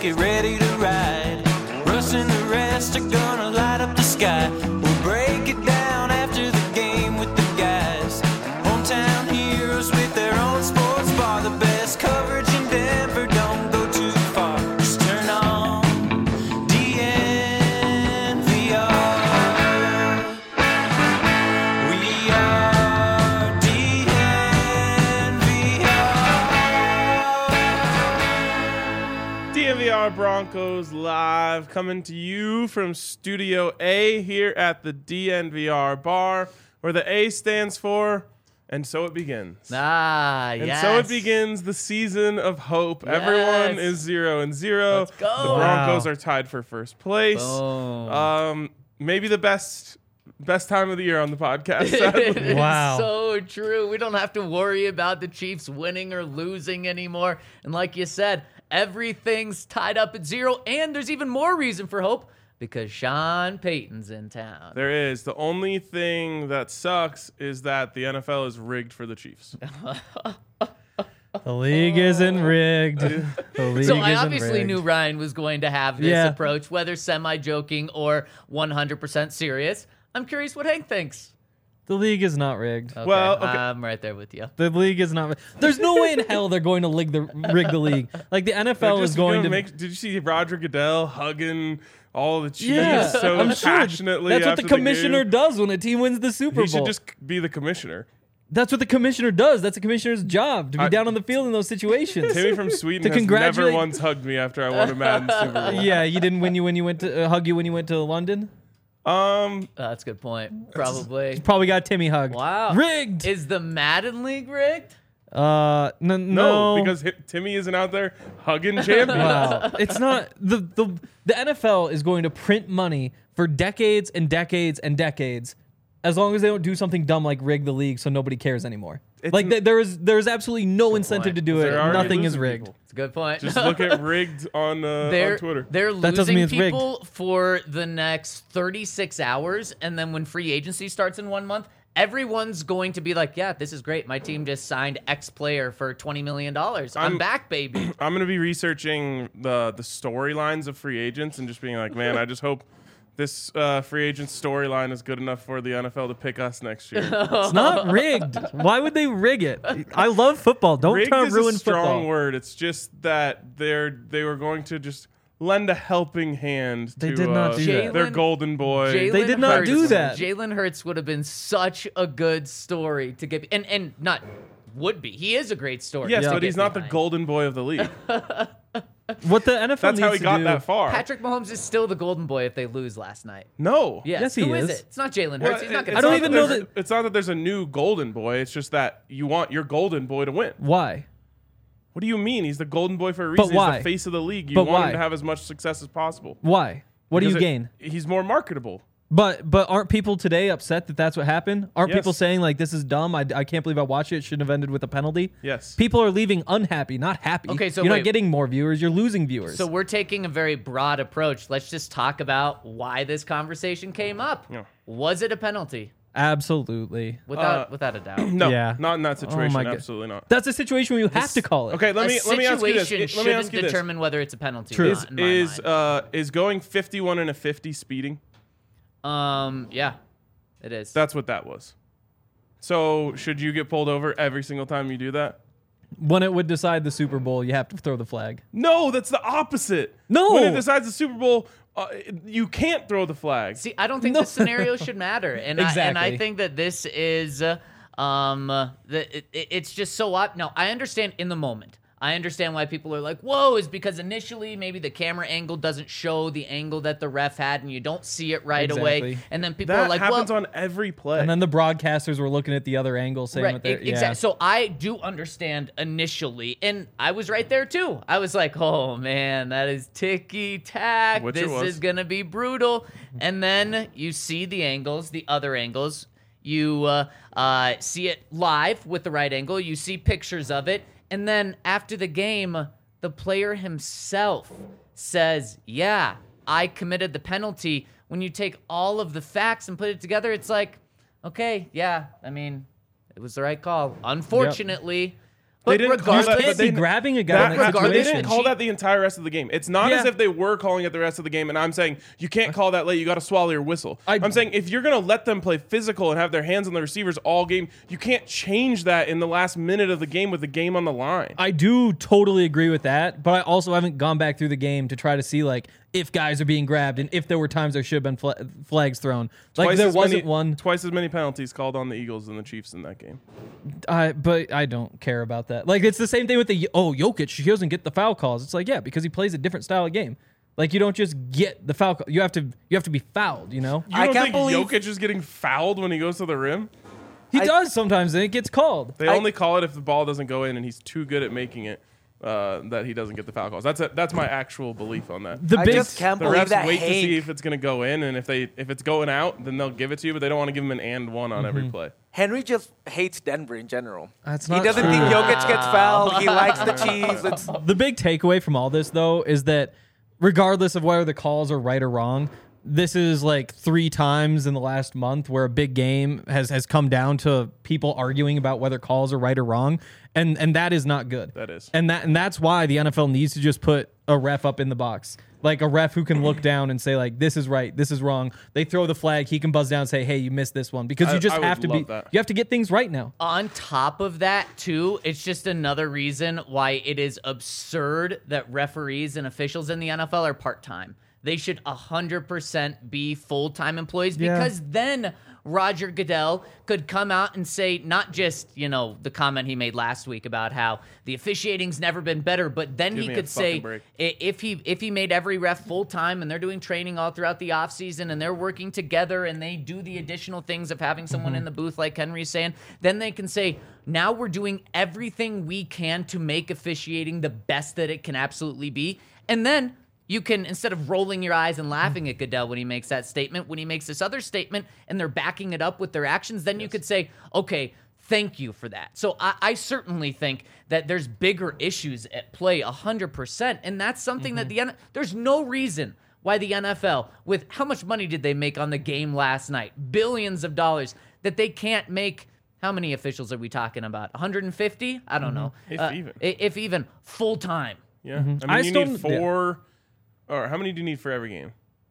get ready to ride. Russ and the rest are gonna light up the sky. We'll break it down after the game with the guys. Hometown heroes with their own sports bar. The best coverage in Denver, don't go too far. Just turn on DNVR. We are DNVR. DNVR Broncos live, coming to you from Studio A here at the DNVR bar, where the A stands for "And So It Begins." And So it begins the season of hope. Yes. Everyone is 0-0. Let's go. The Broncos Wow. are tied for first place. Boom. Maybe the best time of the year on the podcast. It sadly. is Wow. so true. We don't have to worry about the Chiefs winning or losing anymore. And like you said, everything's tied up at 0. And there's even more reason for hope because Sean Payton's in town. There is. The only thing that sucks is that the NFL is rigged for the Chiefs. The league isn't rigged. The league So I isn't obviously rigged. knew Ryan was going to have this Yeah. approach, whether semi-joking or 100% serious. I'm curious what Hank thinks. The league is not rigged. Okay, Well, okay. I'm right there with you. The league is not. There's no way in hell they're going to rig the league. Like the NFL They're is just going gonna to make. Did you see Roger Goodell hugging all the Chiefs Yeah, so I'm sure. passionately? That's what after the commissioner game? does when a team wins the Super He Bowl. should just be the commissioner. That's what the commissioner does. That's the commissioner's job to be down on the field in those situations. Timmy from Sweden To has never congratulate- once hugged me after I won a Madden Super Bowl. Yeah, you didn't when you went to hug you when you went to London. That's a good point. Probably. Probably got Timmy hugged. Wow. Rigged. Is the Madden League rigged? No, No, because Timmy isn't out there hugging champions. wow, it's not the NFL is going to print money for decades and decades and decades, as long as they don't do something dumb like rig the league so nobody cares anymore. Like there's absolutely no incentive to do it. They're already Nothing is losing rigged. people. It's a good point. Just look at rigged on Twitter. They're That doesn't losing mean it's rigged. people for the next 36 hours, and then when free agency starts in 1 month, everyone's going to be like, yeah, this is great. My team just signed X player for $20 million. I'm back, baby. I'm gonna be researching the storylines of free agents and just being like, man, I just hope this free agent storyline is good enough for the NFL to pick us next year. It's not rigged. Why would they rig it? I love football. Don't Rigged try to is ruin a strong football. word. It's just that they were going to just lend a helping hand They to did not do that. their golden boy. They did not do that. Jalen Hurts would have been such a good story to get, and not would be. He is a great story. Yes, to but get he's not the behind. golden boy of the league. What the NFL That's needs how he to got do, that far. Patrick Mahomes is still the golden boy if they lose last night. No. Yes, he who is is. it? It's not Jalen Well, Hurts. He's not going it's I don't not even that know there's- that- It's not that there's a new golden boy. It's just that you want your golden boy to win. Why? What do you mean? He's the golden boy for a reason. why? He's the face of the league. You But want why? him to have as much success as possible. Why? What do you Because gain? He's more marketable. But aren't people today upset that that's what happened? Aren't Yes. people saying like this is dumb? I can't believe I watched it. It shouldn't have ended with a penalty. Yes. People are leaving unhappy, not happy. Okay, so you're wait. not getting more viewers. You're losing viewers. So we're taking a very broad approach. Let's just talk about why this conversation came up. Yeah. Was it a penalty? Absolutely. Without a doubt. No, Yeah. not in that situation. my God. Absolutely not. That's a situation where you have to call it. Okay, let me ask you this. situation Let me shouldn't ask you this. determine whether it's a penalty True. or not, in my mind. Is going 51 and a 50 speeding? Yeah, it is. That's what that was. So should you get pulled over every single time you do that? When it would decide the Super Bowl, you have to throw the flag. No, that's the opposite. No. When it decides the Super Bowl, you can't throw the flag. See, I don't think the scenario should matter, and I Exactly. think that this is it's just so up. Now, I understand in the moment. I understand why people are like, whoa, is because initially maybe the camera angle doesn't show the angle that the ref had and you don't see it right away. Exactly. And then people That are like, happens well, on every play. And then the broadcasters were looking at the other angle, saying what they're Exactly. So I do understand initially, and I was right there too. I was like, "Oh man, that is ticky tack. Which it This was. is gonna be brutal." And then you see the angles, the other angles. You see it live with the right angle. You see pictures of it, and then after the game, the player himself says, "Yeah, I committed the penalty." When you take all of the facts and put it together, it's like, okay, yeah, I mean, it was the right call. Unfortunately, They didn't call that. regardless- But Can't they be grabbing a guy That, in that they situation. didn't call that the entire rest of the game. It's not as Yeah. if they were calling it the rest of the game. And I'm saying you can't call that late. You got to swallow your whistle. I'm saying if you're gonna let them play physical and have their hands on the receivers all game, you can't change that in the last minute of the game with the game on the line. I do totally agree with that, but I also haven't gone back through the game to try to see like if guys are being grabbed and if there were times there should have been flags thrown. Like there wasn't one. Twice as many penalties called on the Eagles than the Chiefs in that game. But I don't care about that. Like it's the same thing with Jokic. He doesn't get the foul calls. It's like, yeah, because he plays a different style of game. Like you don't just get the foul call. You have to be fouled. You know. You I don't can't think believe- Jokic is getting fouled when he goes to the rim? He does sometimes, and it gets called. They only call it if the ball doesn't go in and he's too good at making it that he doesn't get the foul calls. That's my actual belief on that. The I big just can't The believe refs that wait to see Hank, if it's going to go in, and if it's going out, then they'll give it to you, but they don't want to give him an and one on every play. Henry just hates Denver in general. That's He not doesn't true. think Jokic gets fouled. He likes the Chiefs. It's, The big takeaway from all this, though, is that regardless of whether the calls are right or wrong, this is like 3 times in the last month where a big game has come down to people arguing about whether calls are right or wrong, and that is not good. That is. and that's why the NFL needs to just put a ref up in the box, like a ref who can look down and say like this is right, this is wrong. They throw the flag, he can buzz down and say, hey, you missed this one, because you just I would have to love that. you have to get things right now. On top of that, too, it's just another reason why it is absurd that referees and officials in the NFL are part-time. They should 100% be full-time employees, Yeah. because then Roger Goodell could come out and say not just, the comment he made last week about how the officiating's never been better, but then Give he me a could say fucking break. if he made every ref full-time and they're doing training all throughout the offseason and they're working together and they do the additional things of having someone in the booth like Henry's saying, then they can say, now we're doing everything we can to make officiating the best that it can absolutely be. And then you can, instead of rolling your eyes and laughing at Goodell when he makes that statement, when he makes this other statement and they're backing it up with their actions, then you could say, okay, thank you for that. So I certainly think that there's bigger issues at play 100%. And that's something that there's no reason why the NFL, with how much money did they make on the game last night? Billions of dollars, that they can't make. How many officials are we talking about? 150? I don't know. If even full time. Yeah. I mean, I you still- need 4, or how many do you need for every game?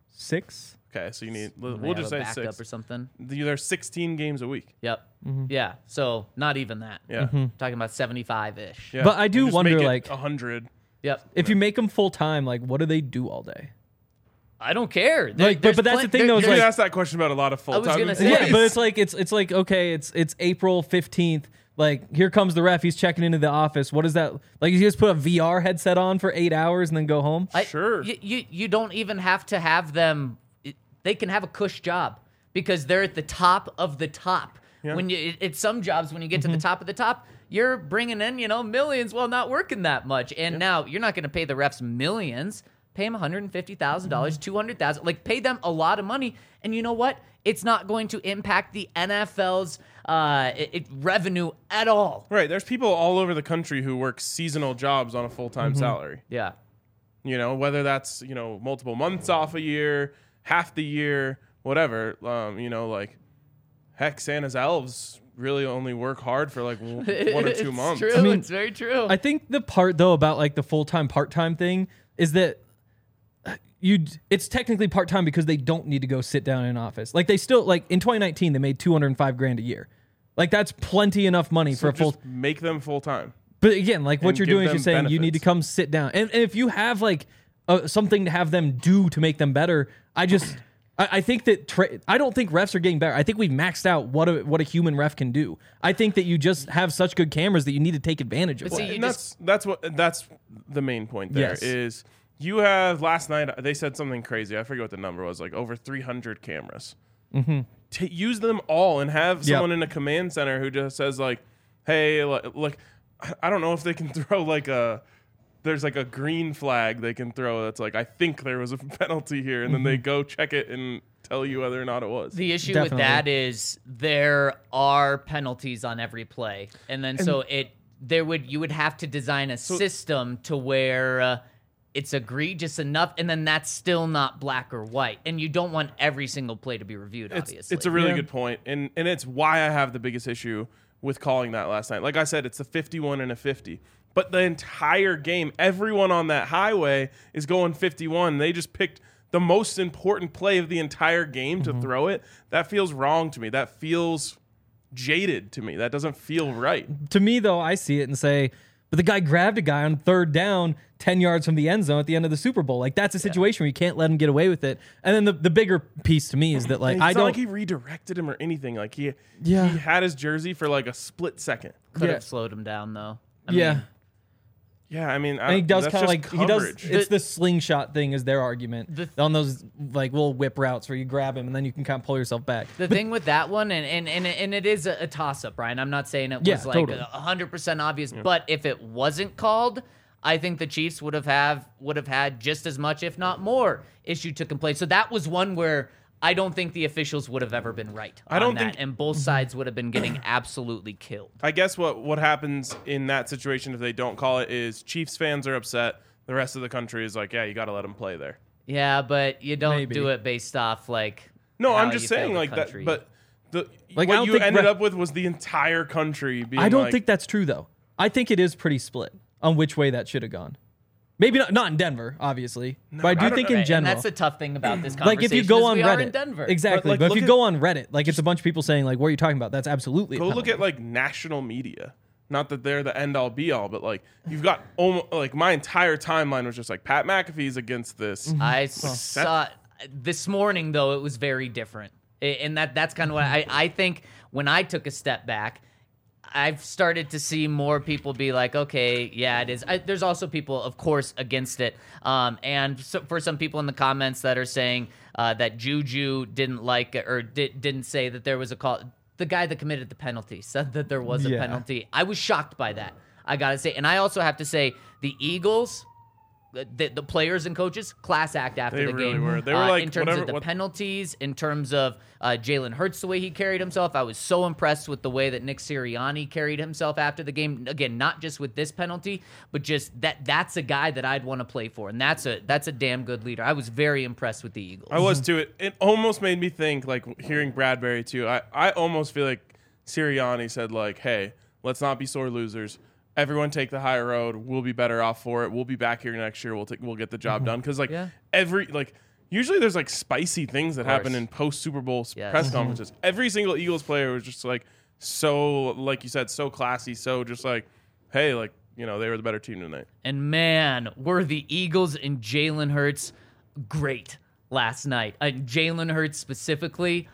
6. Okay, so you need, They we'll have just a say backup 6. or something. There's 16 games a week. Yep. Yeah. So not even that. Yeah. Talking about 75-ish. Yeah. But I do And just wonder, make it like- 100. Yep. If you make them full time, like what do they do all day? I don't care. Like, but that's the thing, though, is You're like- gonna ask that question about a lot of full time. gonna say- Yeah, but it's like it's like okay, it's April 15th. Like here comes the ref. He's checking into the office. What is that? Like you just put a VR headset on for 8 hours and then go home. Sure. You don't even have to have them. They can have a cush job because they're at the top of the top. Yeah. When it's some jobs, when you get to the top of the top, you're bringing in millions while not working that much. And now you're not going to pay the refs millions. Pay them $150,000, $200,000. Like pay them a lot of money. And you know what? It's not going to impact the NFL's revenue at all. Right. There's people all over the country who work seasonal jobs on a full-time salary. Yeah. Whether that's, multiple months off a year, half the year, whatever. Like, heck, Santa's elves really only work hard for like 1 or 2 months. True. I mean, it's very true. I think the part though about like the full time part time thing is that it's technically part time because they don't need to go sit down in an office. Like they still like in 2019 they made $205,000 a year. Like that's plenty enough money for a full. Just make them full-time. But again, like what and you're give doing is them you're saying you need to benefits. come sit down, and if you have like something to have them do to make them better, I think that I don't think refs are getting better. I think we've maxed out what a human ref can do. I think that you just have such good cameras that you need to take advantage of. But it. see, And that's the main point there Yes. is you have last night they said something crazy. I forget what the number was, like over 300 cameras. Mm-hmm. Use them all and have someone in a command center who just says like, hey, like I don't know if they can throw like there's like a green flag they can throw that's like I think there was a penalty here, and then they go check it and tell you whether or not it was. The issue Definitely. with that is there are penalties on every play, and then you would have to design a system to where it's egregious enough, and then that's still not black or white, and you don't want every single play to be reviewed. Obviously, It's a really good point, and it's why I have the biggest issue with calling that last night. Like I said, it's a 51 and a 50. But the entire game, everyone on that highway is going 51. They just picked the most important play of the entire game to throw it. That feels wrong to me. That feels jaded to me. That doesn't feel right. To me, though, I see it and say, but the guy grabbed a guy on 3rd down, 10 yards from the end zone at the end of the Super Bowl. Like, that's a situation where you can't let him get away with it. And then the bigger piece to me is that, like, it's not like he redirected him or anything. Like, he had his jersey for like a split second. Could have slowed him down, though. Yeah, I mean, and he does kind of like coverage. It's the slingshot thing is their argument on those like little whip routes where you grab him and then you can kind of pull yourself back. The thing with that one, and it is a toss up, Brian. I'm not saying it was like 100% obvious, but if it wasn't called, I think the Chiefs would have had just as much, if not more, issue to complain. So that was one where I don't think the officials would have ever been right. And both sides would have been getting absolutely killed. I guess what happens in that situation if they don't call it is Chiefs fans are upset. The rest of the country is like, yeah, you got to let them play there. Yeah, but you don't do it based off like. No, I'm just saying like that. But what you ended up with was the entire country being. I don't think that's true though. I think it is pretty split on which way that should have gone. Maybe not in Denver, obviously, but I do think in general. And that's the tough thing about this conversation. Like if you go on Reddit, in Denver. Exactly. But if you go on Reddit, like it's a bunch of people saying like, "What are you talking about?" That's absolutely. Go look at like national media. Not that they're the end all be all, but like you've got almost like my entire timeline was just like Pat McAfee's against this. I saw this morning though; it was very different, and that's kind of what I think. When I took a step back, I've started to see more people be like, okay, yeah, it is. There's also people, of course, against it. And so for some people in the comments that are saying that Juju didn't like or didn't say that there was a call. The guy that committed the penalty said that there was a penalty. I was shocked by that, I got to say. And I also have to say the Eagles, the players and coaches, class act after the really game. Were. They were like, in terms of the penalties, in terms of Jalen Hurts, the way he carried himself. I was so impressed with the way that Nick Sirianni carried himself after the game. Again, not just with this penalty, but just that's a guy that I'd want to play for, and that's a damn good leader. I was very impressed with the Eagles. I was too. It almost made me think, like hearing Bradbury too. I almost feel like Sirianni said like, "Hey, let's not be sore losers. Everyone take the high road. We'll be better off for it. We'll be back here next year. We'll get the job done." Because usually there's like spicy things that happen in post Super Bowl press conferences. Every single Eagles player was just like so, like you said, so classy. So just like, hey, like they were the better team tonight. And man, were the Eagles and Jalen Hurts great last night. Jalen Hurts specifically.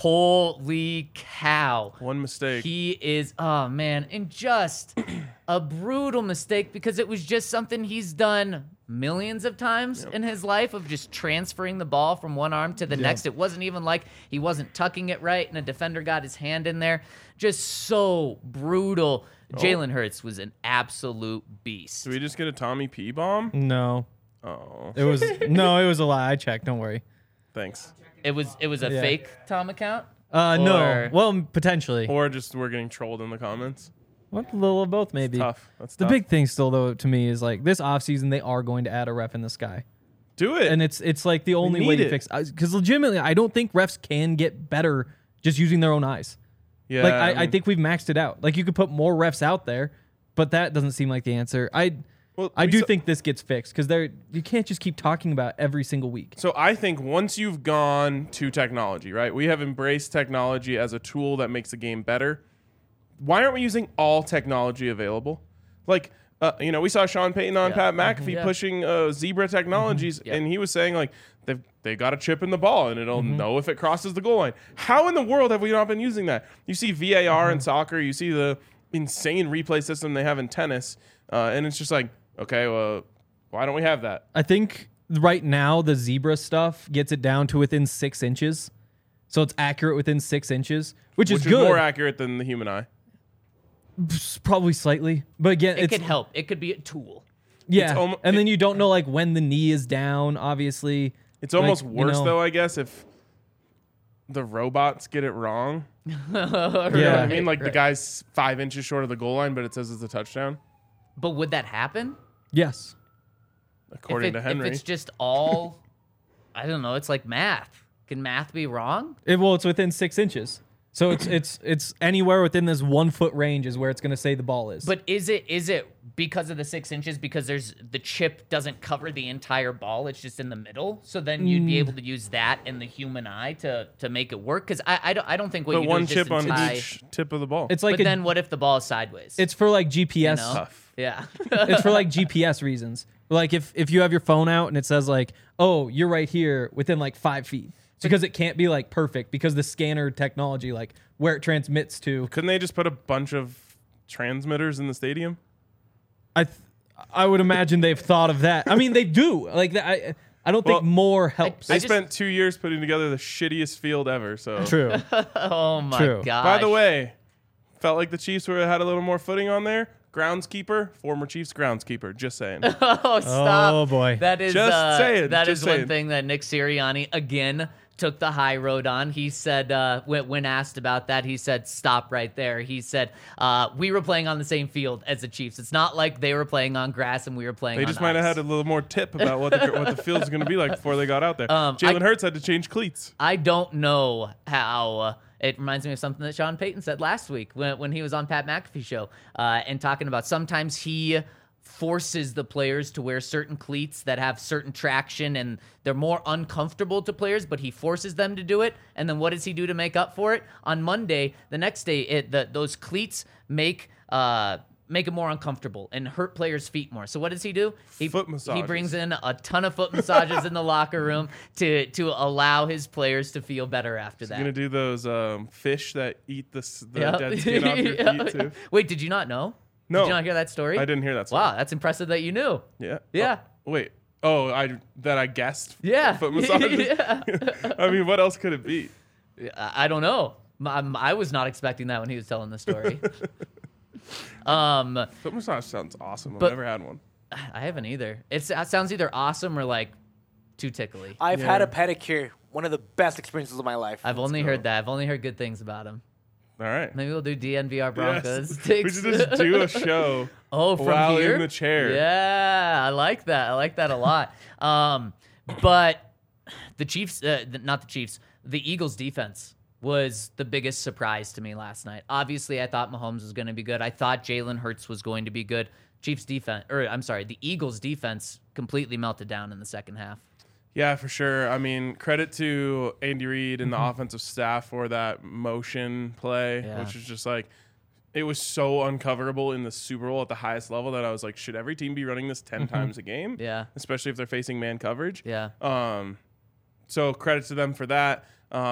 Holy cow. One mistake. He is, oh man, and just a brutal mistake because it was just something he's done millions of times in his life of just transferring the ball from one arm to the next. It wasn't even like he wasn't tucking it right and a defender got his hand in there. Just so brutal. Jalen Hurts was an absolute beast. Did we just get a Tommy P bomb? No. Oh. It was a lie. I checked. Don't worry. Thanks. It was a fake Tom account? No. Well, potentially. Or just we're getting trolled in the comments. What? A little of both, maybe. That's the tough. big thing still, though, to me is like this offseason, they are going to add a ref in the sky. Do it. And it's like the only way to fix it. Because legitimately, I don't think refs can get better just using their own eyes. Yeah. Like, I think we've maxed it out. Like, you could put more refs out there, but that doesn't seem like the answer. I do think this gets fixed because you can't just keep talking about it every single week. So I think once you've gone to technology, right? We have embraced technology as a tool that makes the game better. Why aren't we using all technology available? Like, we saw Sean Payton on Pat McAfee pushing Zebra Technologies, and he was saying like they got a chip in the ball and it'll know if it crosses the goal line. How in the world have we not been using that? You see VAR in soccer, you see the insane replay system they have in tennis, and it's just like, okay, well, why don't we have that? I think right now the Zebra stuff gets it down to within 6 inches. So it's accurate within 6 inches, which is good. More accurate than the human eye. Probably slightly. But again, it could help. It could be a tool. Yeah. And then you don't know like when the knee is down, obviously. It's almost worse though, I guess, if the robots get it wrong. Yeah. You know what I mean? Like the guy's 5 inches short of the goal line, but it says it's a touchdown. But would that happen? Yes. According to Henry. If it's just all, I don't know, it's like math. Can math be wrong? Well, it's within 6 inches. So it's anywhere within this 1 foot range is where it's going to say the ball is. But is it because of the 6 inches? Because the chip doesn't cover the entire ball; it's just in the middle. So then you'd be able to use that and the human eye to make it work. Because I don't think what But you one do is chip on just each tip of the ball. it's like But then what if the ball is sideways? it's for like GPS. know? tough. Yeah. It's for like GPS reasons. Like if you have your phone out and it says like, oh, you're right here within like 5 feet. It's because it can't be like perfect because the scanner technology, like where it transmits to. Couldn't they just put a bunch of transmitters in the stadium? I would imagine they've thought of that. I mean, they do. Like I don't think Well, more helps. They just- spent 2 years putting together the shittiest field ever. So True. Oh my True. god. By the way, felt like the Chiefs had a little more footing on there. Groundskeeper, former Chiefs groundskeeper. Just saying. Oh, stop. Oh, boy. That is Just saying, that just is one saying. thing that Nick Sirianni again took the high road on. He said when asked about that, he said stop right there. He said we were playing on the same field as the Chiefs. It's not like they were playing on grass and we were playing They on just might have ice. had a little more tip about what the field's going to be like before they got out there. Jalen Hurts had to change cleats. I don't know how. It reminds me of something that Sean Payton said last week when he was on Pat McAfee's show and talking about sometimes he forces the players to wear certain cleats that have certain traction and they're more uncomfortable to players, but he forces them to do it. And then what does he do to make up for it? On Monday, the next day, those cleats make it more uncomfortable and hurt players' feet more. So what does he do? Foot He massages. brings in a ton of foot massages in the locker room to allow his players to feel better after that. You're going to do those fish that eat the Yep. dead skin off your feet too. Wait, did you not know? No. Did you not hear that story? I didn't hear that story. Wow, that's impressive that you knew. Yeah. Yeah. Oh, wait. Oh, I guessed. Yeah. Foot massages. Yeah. I mean, what else could it be? I don't know. I was not expecting that when he was telling the story. Foot massage sounds awesome. I've But- never had one. I haven't either. It sounds either awesome or like too tickly. I've had a pedicure. One of the best experiences of my life. I've only heard that. I've only heard good things about him. All right. Maybe we'll do DNVR Broncos. Yes. We should just do a show. Oh, from while here? in the chair. Yeah, I like that. I like that a lot. But the Chiefs, not the Chiefs, the Eagles' defense was the biggest surprise to me last night. Obviously, I thought Mahomes was going to be good. I thought Jalen Hurts was going to be good. The Eagles' defense completely melted down in the second half. Yeah, for sure. I mean, credit to Andy Reid and the offensive staff for that motion play, Yeah. which is just like, it was so uncoverable in the Super Bowl at the highest level that I was like, should every team be running this 10 times a game? Yeah. Especially if they're facing man coverage. Yeah. So credit to them for that.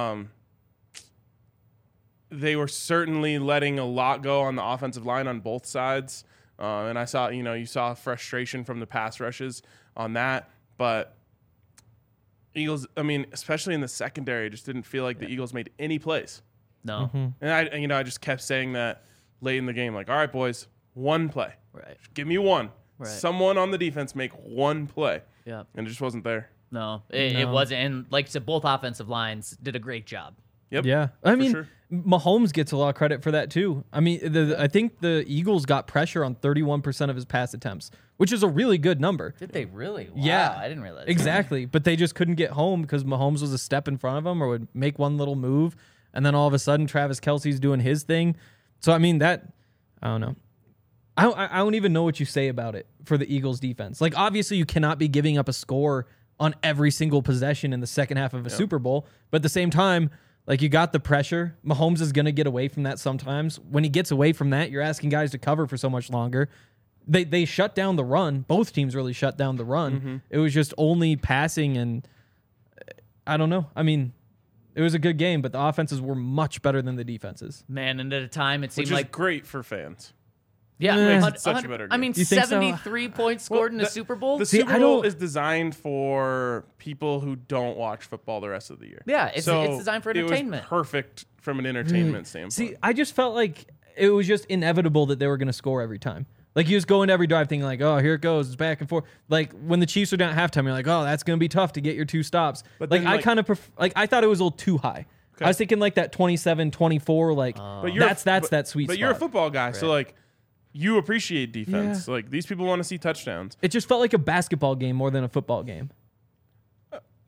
They were certainly letting a lot go on the offensive line on both sides. And I saw, you saw frustration from the pass rushes on that. But Eagles, I mean, especially in the secondary, just didn't feel like the Eagles made any plays. No. And I just kept saying that late in the game, like, all right, boys, one play. Right. Give me one. Right. Someone on the defense make one play. Yeah. And it just wasn't there. No, it wasn't. And like I said, both offensive lines did a great job. Yep. Yeah, I mean, sure. Mahomes gets a lot of credit for that too. I mean, I think the Eagles got pressure on 31% of his pass attempts, which is a really good number. Did they really? Wow, Yeah, I didn't realize. Exactly, but they just couldn't get home because Mahomes was a step in front of him or would make one little move, and then all of a sudden Travis Kelce's doing his thing. So I mean I don't know. I don't even know what you say about it for the Eagles defense. Like obviously you cannot be giving up a score on every single possession in the second half of a Super Bowl, but at the same time, like you got the pressure. Mahomes is going to get away from that sometimes. When he gets away from that, you're asking guys to cover for so much longer. They shut down the run. Both teams really shut down the run. Mm-hmm. It was just only passing, and I don't know. I mean, it was a good game, but the offenses were much better than the defenses. Man, and at a time it seemed Which is like great for fans. yeah, Makes it such a better I game. mean, You think so? 73 points scored in the Super Bowl. The See, Super I Bowl don't- is designed for people who don't watch football the rest of the year. Yeah, it's designed for entertainment. It was perfect from an entertainment standpoint. See, I just felt like it was just inevitable that they were going to score every time. Like you just go into every drive thinking like, oh, here it goes, it's back and forth. Like when the Chiefs are down at halftime, you're like, oh, that's going to be tough to get your 2 stops. But like then, I like- kind of I thought it was a little too high. I was thinking like that 27-24, like But that's but- that sweet But spot. you're a football guy, so like you appreciate defense. Like these people want to see touchdowns. It just felt like a basketball game more than a football game.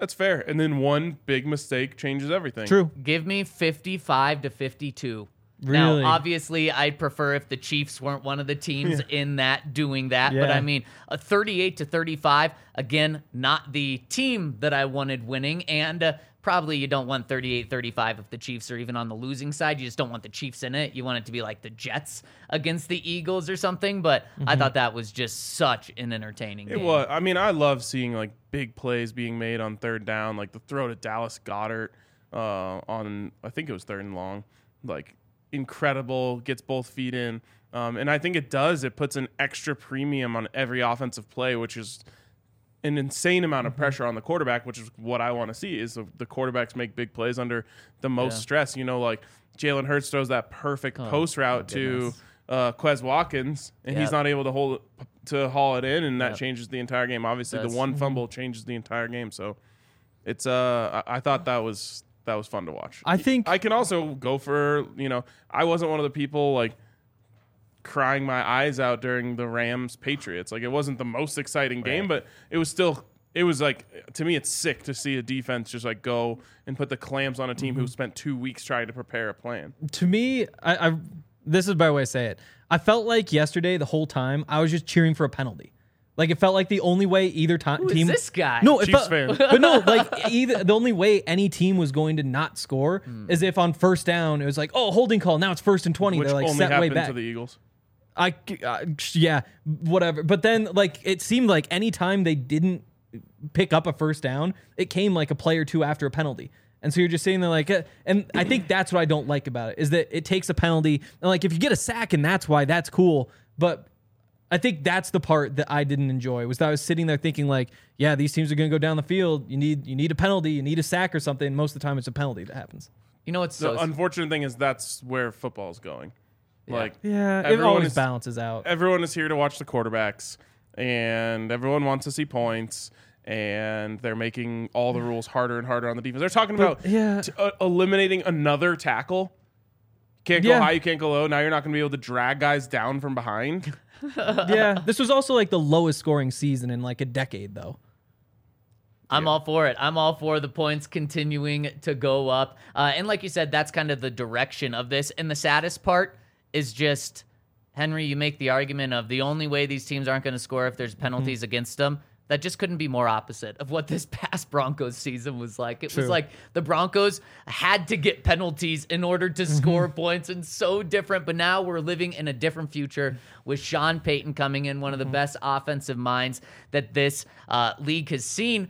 That's fair. And then one big mistake changes everything. True. Give me 55-52. Really? Now, obviously, I'd prefer if the Chiefs weren't one of the teams in that doing that. But Yeah. I mean, a 38-35, again, not the team that I wanted winning. And probably you don't want 38-35 if the Chiefs are even on the losing side. You just don't want the Chiefs in it. You want it to be like the Jets against the Eagles or something. But I thought that was just such an entertaining game. It was. I mean, I love seeing like big plays being made on third down, like the throw to Dallas Goedert on, I think it was 3rd and long. Like, incredible, gets both feet in. And I think it puts an extra premium on every offensive play, which is an insane amount of pressure on the quarterback, which is what I want to see, is the quarterbacks make big plays under the most stress. You know, like Jalen Hurts throws that perfect post route to Quez Watkins, and he's not able to haul it in, and that changes the entire game. Obviously, the one fumble changes the entire game. So it's I thought that was fun to watch. I think I can also go for, I wasn't one of the people like crying my eyes out during the Rams Patriots. Like, it wasn't the most exciting game, but it was like, to me, it's sick to see a defense just like go and put the clamps on a team who spent 2 weeks trying to prepare a plan. To me, I this is a better way to say it. I felt like yesterday, the whole time, I was just cheering for a penalty. Like, it felt like the only way either team. Who is this guy? No, it Chiefs felt, fan. but no, like the only way any team was going to not score is if on first down it was like, oh, holding call. Now it's 1st and 20. Which They're like only set way happened back. to the Eagles. Yeah, whatever. But then, like, it seemed like any time they didn't pick up a first down, it came like a play or two after a penalty. And so you're just sitting there like, and I think that's what I don't like about it, is that it takes a penalty. And like, if you get a sack and that's why, that's cool. But I think that's the part that I didn't enjoy, was that I was sitting there thinking like, yeah, these teams are going to go down the field. You need a penalty. You need a sack or something. Most of the time it's a penalty that happens. You know what's The so unfortunate thing is that's where football's going. Like, Yeah, it everyone always is- balances out. everyone is here to watch the quarterbacks, and everyone wants to see points, and they're making all the rules harder and harder on the defense. They're talking about eliminating another tackle. Can't go high, you can't go low. Now you're not going to be able to drag guys down from behind. Yeah, this was also like the lowest scoring season in like a decade, though. I'm all for it. I'm all for the points continuing to go up. And like you said, that's kind of the direction of this. And the saddest part is just, Henry, you make the argument of the only way these teams aren't going to score if there's penalties against them. That just couldn't be more opposite of what this past Broncos season was like. It was like the Broncos had to get penalties in order to score points, and so different. But now we're living in a different future with Sean Payton coming in, one of the best offensive minds that this league has seen.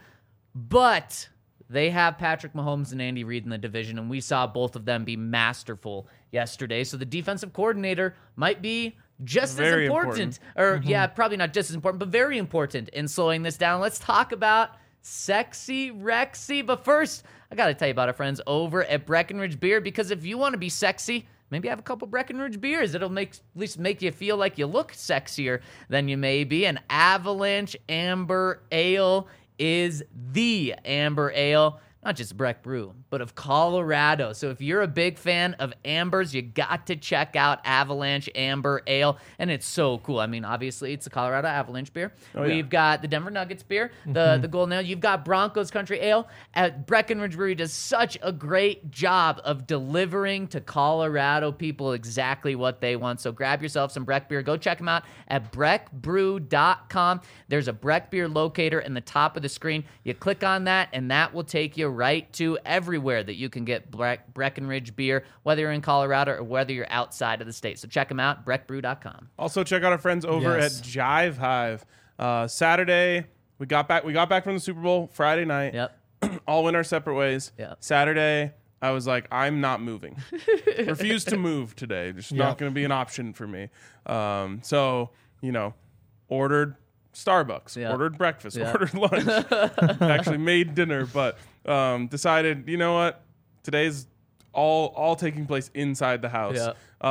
But they have Patrick Mahomes and Andy Reid in the division, and we saw both of them be masterful yesterday. So the defensive coordinator might be just Very as important. Or, yeah, probably not just as important, but very important in slowing this down. Let's talk about Sexy Rexy. But first, I got to tell you about our friends over at Breckenridge Beer, because if you want to be sexy, maybe have a couple Breckenridge beers. It'll at least make you feel like you look sexier than you may be. An Avalanche Amber Ale is the amber ale, not just Breck Brew, but of Colorado. So if you're a big fan of ambers, you got to check out Avalanche Amber Ale, and it's so cool. I mean, obviously, it's the Colorado Avalanche beer. We've got the Denver Nuggets beer, the Golden Ale. You've got Broncos Country Ale. At Breckenridge Brewery does such a great job of delivering to Colorado people exactly what they want. So grab yourself some Breck beer. Go check them out at breckbrew.com. There's a Breck beer locator in the top of the screen. You click on that, and that will take you right to everywhere that you can get Breckenridge beer, whether you're in Colorado or whether you're outside of the state. So check them out, breckbrew.com. Also, check out our friends over at Jive Hive. Saturday, we got back from the Super Bowl. Friday night, all went our separate ways. Saturday, I was like, I'm not moving. Refuse to move today. Just not going to be an option for me. So, ordered Starbucks, ordered breakfast, ordered lunch, actually made dinner, but decided, you know what, today's all taking place inside the house.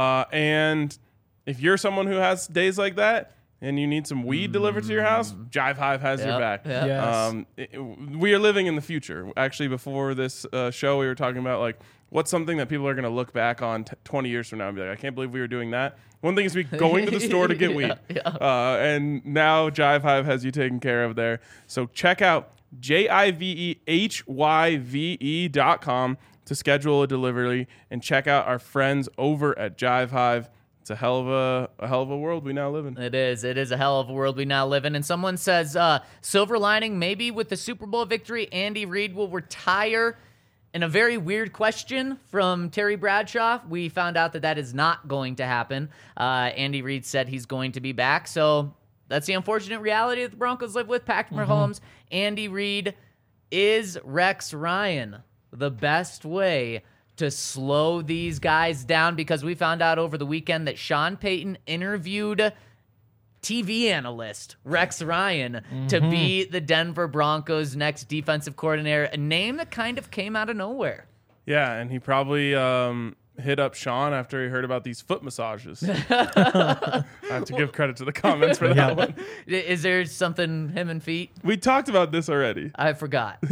And if you're someone who has days like that and you need some weed delivered to your house, Jive Hive has your back. We are living in the future. Actually, before this show, we were talking about like what's something that people are going to look back on 20 years from now and be like, I can't believe we were doing that. One thing is me going to the store to get weed. And now Jive Hive has you taken care of there. So check out JIVEHYVE.com to schedule a delivery and check out our friends over at Jive Hive. It's a hell of a world we now live in. It is a hell of a world we now live in. And someone says, silver lining, maybe with the Super Bowl victory, Andy Reid will retire. And a very weird question from Terry Bradshaw. We found out that is not going to happen. Andy Reid said he's going to be back. So that's the unfortunate reality that the Broncos live with. Patrick Mahomes, Andy Reid. Is Rex Ryan the best way to slow these guys down? Because we found out over the weekend that Sean Payton interviewed TV analyst Rex Ryan to be the Denver Broncos' next defensive coordinator, a name that kind of came out of nowhere. Yeah, and he probably hit up Sean after he heard about these foot massages. I have to give credit to the comments for that one. Is there something him and feet? We talked about this already. I forgot.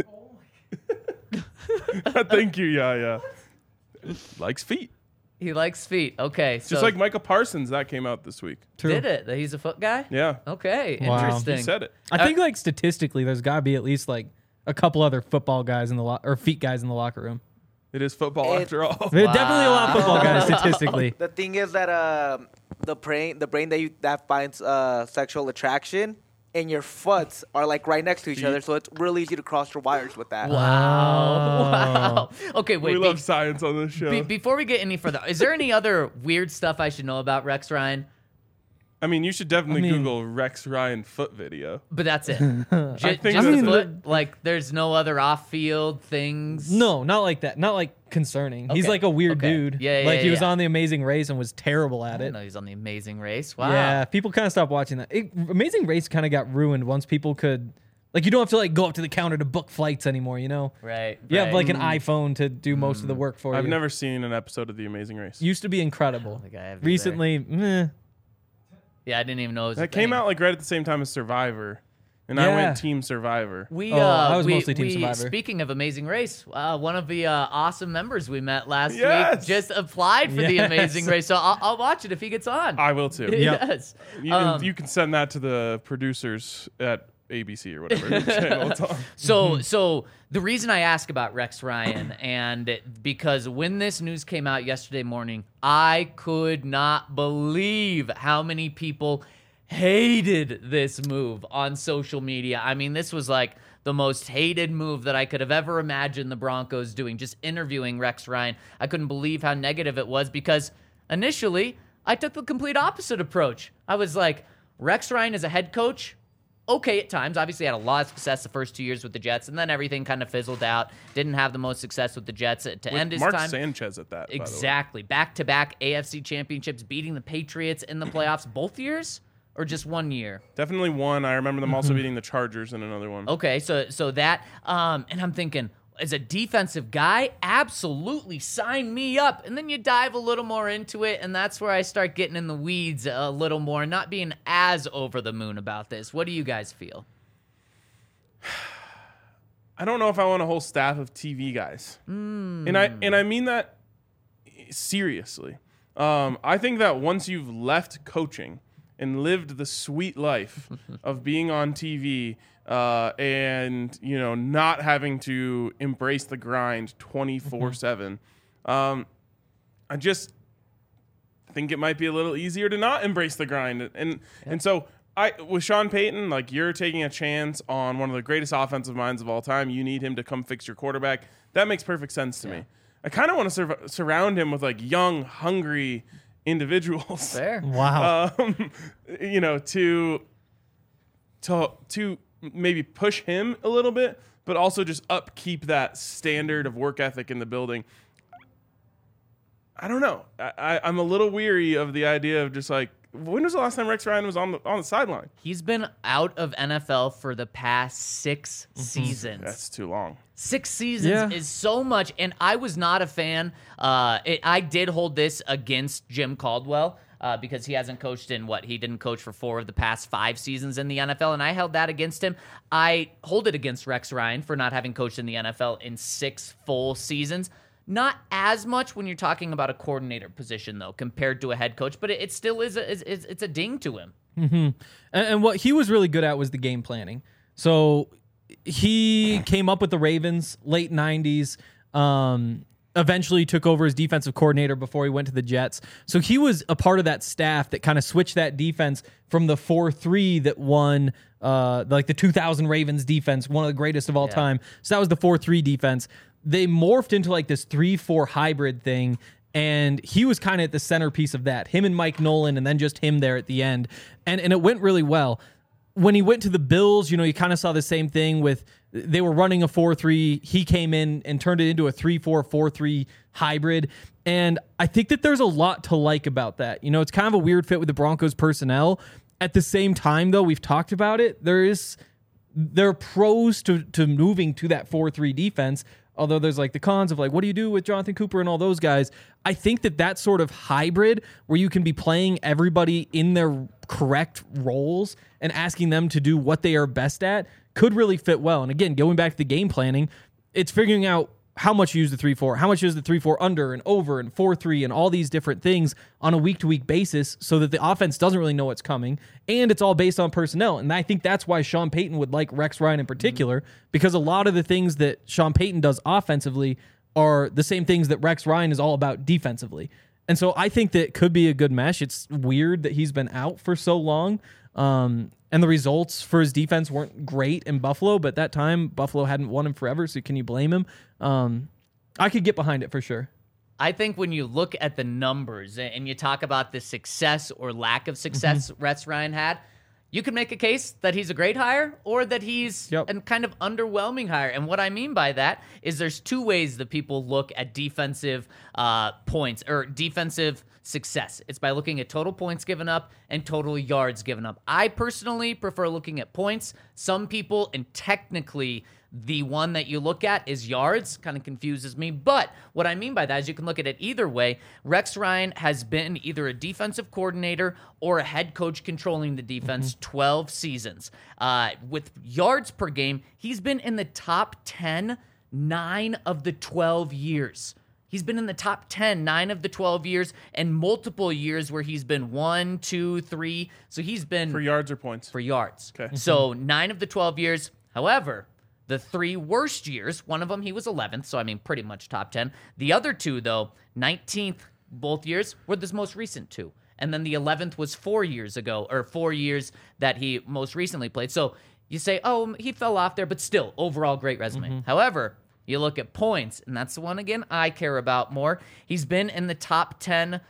Thank you, yeah. Likes feet. He likes feet. Okay. So Just like Micah Parsons, that came out this week. True. did it? That he's a foot guy? Yeah. Okay. Wow. Interesting. He said it. I think like statistically, there's got to be at least like a couple other football guys in the or feet guys in the locker room. It is football after all. There's definitely a lot of football guys statistically. The thing is that the brain that finds sexual attraction and your foots are like right next to each other, so it's really easy to cross your wires with that. Wow. Okay, wait. We love science on this show. Before we get any further, is there any other weird stuff I should know about Rex Ryan? I mean, you should definitely Google Rex Ryan foot video. But that's it. think just that's his it. foot? Like, there's no other off-field things? No, not like that. Not like concerning. He's Okay. like a weird Okay. dude. Yeah, like he was yeah. on The Amazing Race and was terrible at I it. know he's on The Amazing Race. Wow. Yeah, people kind of stopped watching that. Amazing Race kind of got ruined once people could, like, you don't have to like go up to the counter to book flights anymore. You know, Right. you have right. like an iPhone to do most of the work for you. I've never seen an episode of The Amazing Race. Used to be incredible. think I have either. Recently, meh. Yeah, I didn't even know it was a That came thing. out like right at the same time as Survivor, and I Yeah. went Team Survivor. I was mostly Team Survivor. Speaking of Amazing Race, one of the awesome members we met last week Yes. just applied for the Yes. Amazing Race, so I'll watch it if he gets on. I will too. Yes. You can send that to the producers at ABC or whatever channel it's on. So the reason I ask about Rex Ryan, and because when this news came out yesterday morning, I could not believe how many people hated this move on social media. I mean, this was like the most hated move that I could have ever imagined the Broncos doing, just interviewing Rex Ryan. I couldn't believe how negative it was because initially I took the complete opposite approach. I was like, Rex Ryan as a head coach, okay at times. Obviously had a lot of success the first 2 years with the Jets, and then everything kind of fizzled out. Didn't have the most success with the Jets to end his Mark time. Sanchez at that. Exactly. Back-to-back AFC championships, beating the Patriots in the playoffs both years or just 1 year? Definitely one. I remember them also beating the Chargers in another one. Okay, so that and I'm thinking, as a defensive guy, absolutely sign me up. And then you dive a little more into it, and that's where I start getting in the weeds a little more, not being as over the moon about this. What do you guys feel? I don't know if I want a whole staff of TV guys, and I mean that seriously. I think that once you've left coaching and lived the sweet life of being on TV and not having to embrace the grind 24/7, I just think it might be a little easier to not embrace the grind, and so. With Sean Payton, like, you're taking a chance on one of the greatest offensive minds of all time. You need him to come fix your quarterback. That makes perfect sense to me. I kind of want to surround him with like young, hungry individuals. Fair. Wow. To maybe push him a little bit, but also just upkeep that standard of work ethic in the building. I don't know. I'm a little weary of the idea of just like, when was the last time Rex Ryan was on the sideline? He's been out of NFL for the past 6 seasons. That's too long. 6 seasons is so much, and I was not a fan. I did hold this against Jim Caldwell because he hasn't coached in he didn't coach for 4 of the past 5 seasons in the NFL, and I held that against him. I hold it against Rex Ryan for not having coached in the NFL in 6 full seasons. Not as much when you're talking about a coordinator position, though, compared to a head coach, but it still is it's a ding to him. And what he was really good at was the game planning. So he came up with the Ravens late 90s. Eventually took over as defensive coordinator before he went to the Jets. So he was a part of that staff that kind of switched that defense from the 4-3 that won like the 2000 Ravens defense, one of the greatest of all time. So that was the 4-3 defense. They morphed into like this 3-4 hybrid thing, and he was kind of at the centerpiece of that. Him and Mike Nolan, and then just him there at the end. And it went really well. When he went to the Bills, you kind of saw the same thing with they were running a 4-3. He came in and turned it into a 3-4, 4-3 hybrid. And I think that there's a lot to like about that. It's kind of a weird fit with the Broncos personnel. At the same time, though, we've talked about it. There are pros to moving to that 4-3 defense. Although there's like the cons of like, what do you do with Jonathan Cooper and all those guys? I think that sort of hybrid where you can be playing everybody in their correct roles and asking them to do what they are best at could really fit well. And again, going back to the game planning, it's figuring out how much you use the 3-4, how much you use the 3-4 under and over and 4-3 and all these different things on a week-to-week basis so that the offense doesn't really know what's coming, and it's all based on personnel. And I think that's why Sean Payton would like Rex Ryan in particular, because a lot of the things that Sean Payton does offensively are the same things that Rex Ryan is all about defensively. And so I think that could be a good mesh. It's weird that he's been out for so long, and the results for his defense weren't great in Buffalo, but at that time, Buffalo hadn't won him forever, so can you blame him? I could get behind it for sure. I think when you look at the numbers and you talk about the success or lack of success Rex Ryan had, you can make a case that he's a great hire or that he's a kind of underwhelming hire. And what I mean by that is there's two ways that people look at defensive points or defensive success. It's by looking at total points given up and total yards given up. I personally prefer looking at points. Some people, and technically the one that you look at is yards, kind of confuses me. But what I mean by that is you can look at it either way. Rex Ryan has been either a defensive coordinator or a head coach controlling the defense 12 seasons. With yards per game, he's been in the top 10 9 of the 12 years. He's been in the top 10, 9 of the 12 years, and multiple years where he's been 1, 2, 3. So he's been... For yards or points? For yards. Okay. So 9 of the 12 years. However, the 3 worst years, one of them he was 11th, so I mean pretty much top 10. The other 2, though, 19th both years, were the most recent 2. And then the 11th was 4 years ago, or 4 years that he most recently played. So you say, oh, he fell off there, but still, overall great resume. However... You look at points, and that's the one, again, I care about more. He's been in the top 10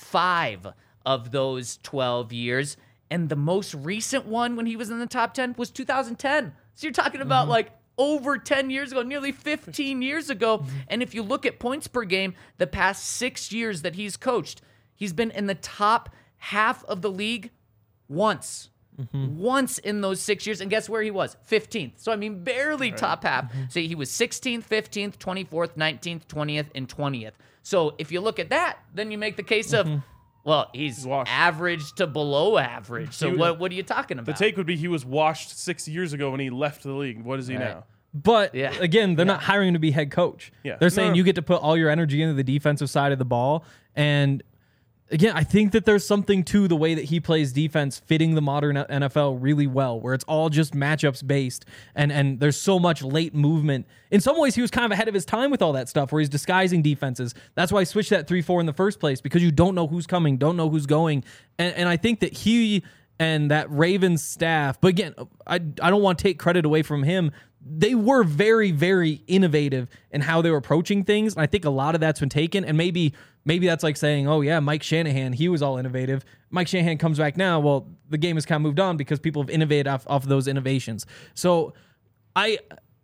5 of those 12 years, and the most recent one when he was in the top 10 was 2010. So you're talking about, like, over 10 years ago, nearly 15 years ago. And if you look at points per game, the past 6 years that he's coached, he's been in the top half of the league once. Once in those 6 years, and guess where he was? 15th. So, I mean, barely top half. So he was 16th, 15th, 24th, 19th, 20th, and 20th. So if you look at that, then you make the case of, well, he's average to below average. So what are you talking about? The take would be he was washed 6 years ago when he left the league. What is he now? But again, they're not hiring him to be head coach. They're saying you get to put all your energy into the defensive side of the ball. And again, I think that there's something to the way that he plays defense fitting the modern NFL really well, where it's all just matchups based and there's so much late movement. In some ways, he was kind of ahead of his time with all that stuff where he's disguising defenses. That's why I switched that 3-4 in the first place, because you don't know who's coming, don't know who's going. And I think that he and that Ravens staff, but again, I don't want to take credit away from him. They were very, very innovative in how they were approaching things. And I think a lot of that's been taken. And maybe that's like saying, oh, yeah, Mike Shanahan, he was all innovative. Mike Shanahan comes back now. Well, the game has kind of moved on because people have innovated off of those innovations. So I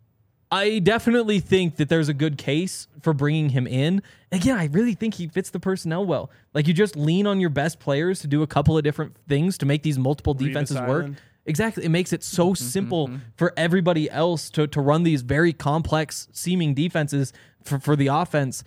definitely think that there's a good case for bringing him in. Again, I really think he fits the personnel well. Like, you just lean on your best players to do a couple of different things to make these multiple defenses work. Exactly. It makes it so simple for everybody else to run these very complex seeming defenses for the offense.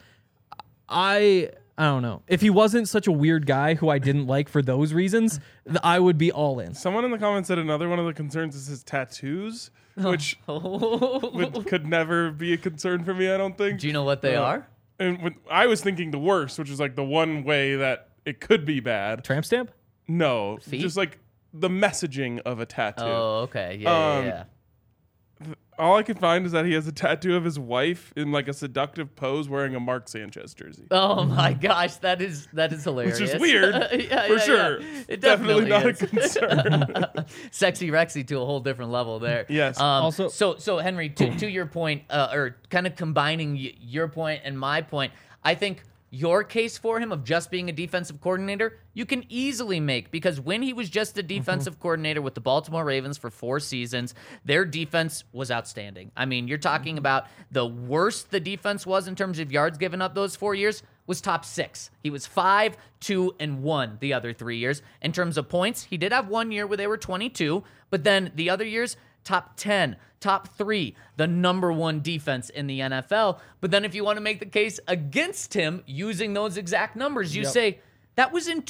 I don't know. If he wasn't such a weird guy who I didn't like for those reasons, I would be all in. Someone in the comments said another one of the concerns is his tattoos, which could never be a concern for me, I don't think. Do you know what they are? And I was thinking the worst, which is like the one way that it could be bad. Tramp stamp? No. Feet? Just like the messaging of a tattoo. Oh, okay. Yeah. All I could find is that he has a tattoo of his wife in like a seductive pose wearing a Mark Sanchez jersey. Oh my gosh, that is hilarious. Which is weird, for sure. It Definitely definitely not is. a concern. Sexy Rexy to a whole different level there. Yes. Also- so Henry, to your point, or kind of combining your point and my point, I think your case for him of just being a defensive coordinator, you can easily make, because when he was just a defensive coordinator with the Baltimore Ravens for 4 seasons, their defense was outstanding. I mean, you're talking about the worst the defense was in terms of yards given up those 4 years was top 6. He was 5, 2, and 1 the other 3 years. In terms of points, he did have 1 year where they were 22, but then the other years, top 10, top 3, the number 1 defense in the NFL. But then if you want to make the case against him using those exact numbers, you say that was in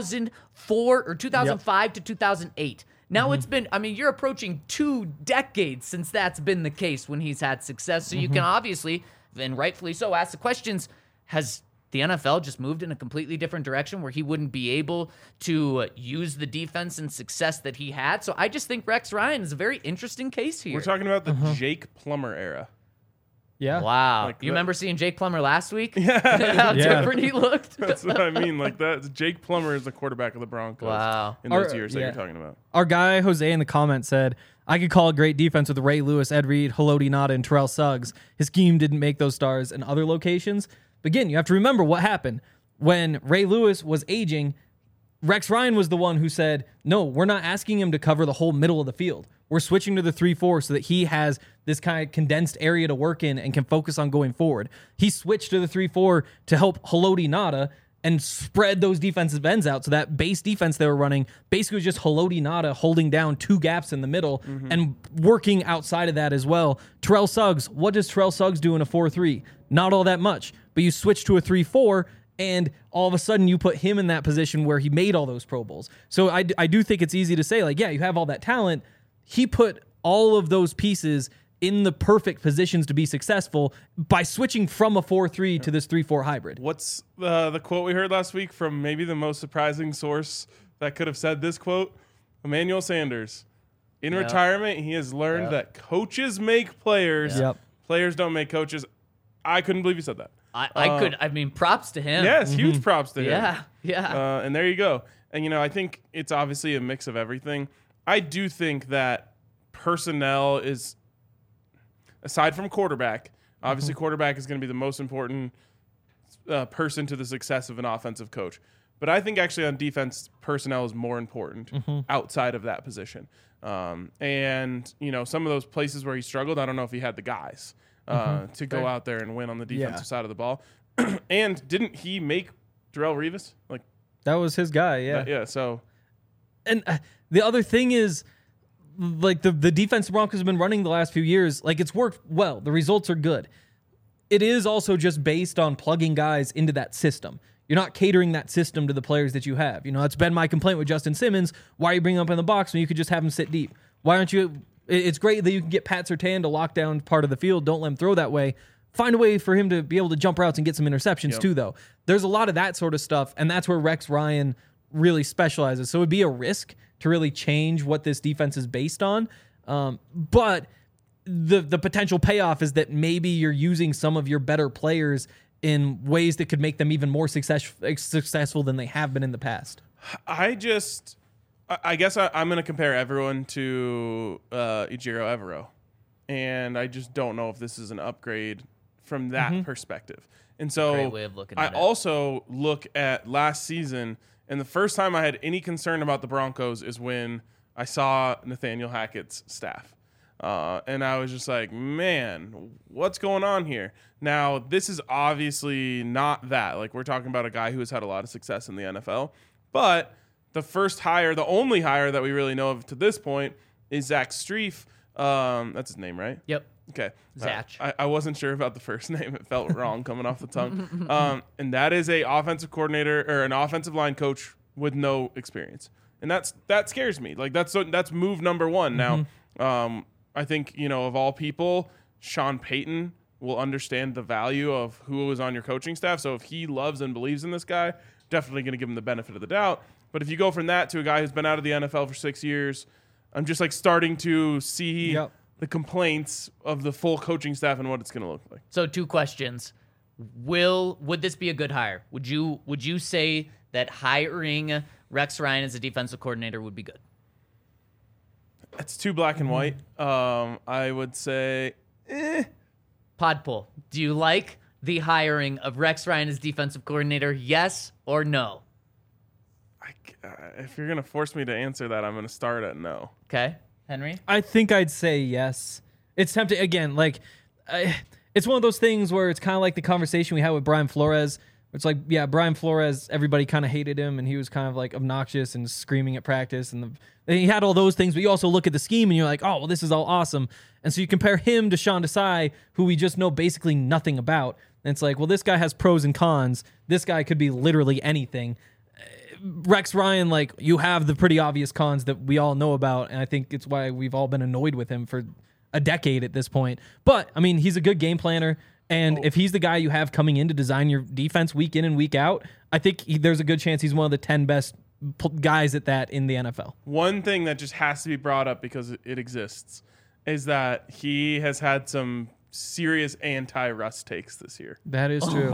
2004 or 2005 to 2008. Now it's been, I mean, you're approaching 2 decades since that's been the case when he's had success. So you can obviously, and rightfully so, ask the questions, has the NFL just moved in a completely different direction where he wouldn't be able to use the defense and success that he had? So I just think Rex Ryan is a very interesting case here. We're talking about the Jake Plummer era. Yeah. Wow. Like You the- remember seeing Jake Plummer last week? How different he looked? That's what I mean. Like that, Jake Plummer is the quarterback of the Broncos. Wow. In those Our- years that yeah. you're talking about. Our guy Jose in the comments said, I could call a great defense with Ray Lewis, Ed Reed, Haloti Ngata, and Terrell Suggs. His scheme didn't make those stars in other locations. But again, you have to remember what happened. When Ray Lewis was aging, Rex Ryan was the one who said, no, we're not asking him to cover the whole middle of the field. We're switching to the 3-4 so that he has this kind of condensed area to work in and can focus on going forward. He switched to the 3-4 to help Haloti Ngata and spread those defensive ends out. So that base defense they were running basically was just Haloti Ngata holding down 2 gaps in the middle and working outside of that as well. Terrell Suggs, what does Terrell Suggs do in a 4-3? Not all that much. But you switch to a 3-4, and all of a sudden you put him in that position where he made all those Pro Bowls. So I do think it's easy to say, like, yeah, you have all that talent. He put all of those pieces in the perfect positions to be successful by switching from a 4-3 to this 3-4 hybrid. What's the quote we heard last week from maybe the most surprising source that could have said this quote? Emmanuel Sanders. In retirement, he has learned that coaches make players. Yep. Players don't make coaches. I couldn't believe he said that. I mean, props to him. Yes, huge props to him. Yeah. And there you go. And, I think it's obviously a mix of everything. I do think that personnel is, aside from quarterback, obviously quarterback is going to be the most important person to the success of an offensive coach. But I think actually on defense, personnel is more important outside of that position. And, some of those places where he struggled, I don't know if he had the guys to go out there and win on the defensive side of the ball. And didn't he make Darrelle Revis? Like, That was his guy, yeah. yeah, so And the other thing is, like, the defense the Broncos have been running the last few years, like, it's worked well. The results are good. It is also just based on plugging guys into that system. You're not catering that system to the players that you have. That's been my complaint with Justin Simmons. Why are you bringing him up in the box when you could just have him sit deep? Why aren't you... It's great that you can get Pat Surtain to lock down part of the field. Don't let him throw that way. Find a way for him to be able to jump routes and get some interceptions too, though. There's a lot of that sort of stuff, and that's where Rex Ryan really specializes. So it would be a risk to really change what this defense is based on. But the potential payoff is that maybe you're using some of your better players in ways that could make them even more successful than they have been in the past. I guess I'm going to compare everyone to Ejiro Evero. And I just don't know if this is an upgrade from that perspective. And so Great way of looking at it. I also look at last season, and the first time I had any concern about the Broncos is when I saw Nathaniel Hackett's staff. And I was just like, man, what's going on here? Now, this is obviously not that. Like, we're talking about a guy who has had a lot of success in the NFL. But the first hire, the only hire that we really know of to this point is Zach Strief. That's his name, right? Yep. Okay. Zach. I wasn't sure about the first name. It felt wrong coming off the tongue. And that is a offensive coordinator or an offensive line coach with no experience. And that scares me. Like, that's move number one. Now, I think, of all people, Sean Payton will understand the value of who was on your coaching staff. So if he loves and believes in this guy, definitely going to give him the benefit of the doubt. But if you go from that to a guy who's been out of the NFL for 6 years, I'm just like starting to see the complaints of the full coaching staff and what it's going to look like. So 2 questions. Would this be a good hire? Would you say that hiring Rex Ryan as a defensive coordinator would be good? It's too black and white. I would say, Podpoll. Do you like the hiring of Rex Ryan as defensive coordinator? Yes or no? If you're going to force me to answer that, I'm going to start at no. Okay, Henry. I think I'd say yes. It's tempting again. It's one of those things where it's kind of like the conversation we had with Brian Flores. It's like, yeah, Brian Flores, everybody kind of hated him, and he was kind of like obnoxious and screaming at practice, and he had all those things. But you also look at the scheme, and you're like, oh, well, this is all awesome. And so you compare him to Sean Desai, who we just know basically nothing about. And it's like, well, this guy has pros and cons. This guy could be literally anything. Rex Ryan, like, you have the pretty obvious cons that we all know about, and I think it's why we've all been annoyed with him for a decade at this point. But, I mean, he's a good game planner, and if he's the guy you have coming in to design your defense week in and week out, I think there's a good chance he's one of the 10 best guys at that in the NFL. One thing that just has to be brought up because it exists is that he has had some serious anti-Russ takes this year. That is true.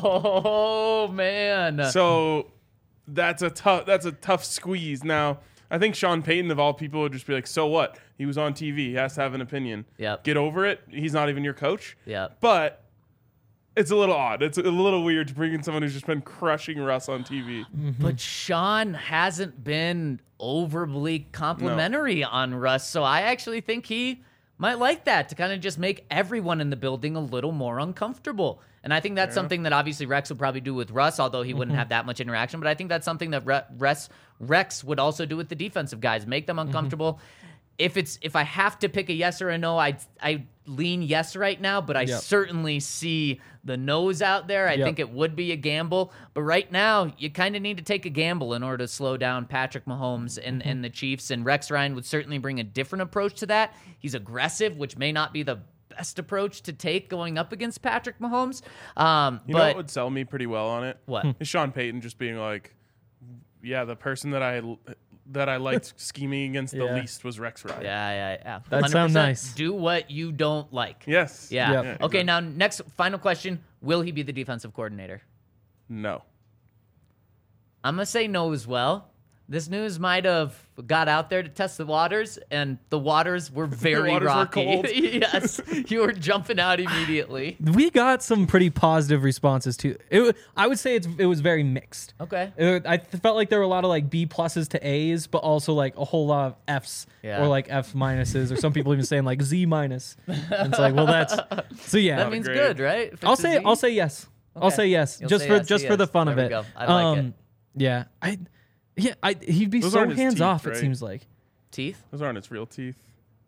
Oh, man. So that's a tough squeeze. Now, I think Sean Payton, of all people, would just be like, so what? He was on TV. He has to have an opinion. Yep. Get over it. He's not even your coach. Yep. But it's a little odd. It's a little weird to bring in someone who's just been crushing Russ on TV. But Sean hasn't been overly complimentary on Russ, so I actually think he might like that to kind of just make everyone in the building a little more uncomfortable. And I think that's something that obviously Rex would probably do with Russ, although he wouldn't have that much interaction. But I think that's something that Rex would also do with the defensive guys, make them uncomfortable. If I have to pick a yes or a no, I lean yes right now, but I certainly see the no's out there. I think it would be a gamble. But right now, you kind of need to take a gamble in order to slow down Patrick Mahomes and the Chiefs. And Rex Ryan would certainly bring a different approach to that. He's aggressive, which may not be the best approach to take going up against Patrick Mahomes. You know what would sell me pretty well on it? What? Is Sean Payton just being like, yeah, the person that I liked scheming against the least was Rex Ryan. Yeah. That sounds nice. Do what you don't like. Yes. Yeah. Yep. Okay, exactly. now next final question. Will he be the defensive coordinator? No. I'm going to say no as well. This news might have got out there to test the waters, and the waters were very waters rocky. were cold. Yes, you were jumping out immediately. We got some pretty positive responses to it. I would say it was very mixed. Okay. I felt like there were a lot of like B pluses to A's, but also like a whole lot of F's or like F minuses, or some people even saying like Z minus. And it's like, well, that's so yeah. That means great. good, right? If I'll it's a say Z? I'll say yes. I'll say yes, You'll just say for yes, just for the fun there of we it. go. I like it. Yeah, he'd be Those so aren't his hands teeth, off. It right? seems like. Teeth? Those aren't its real teeth.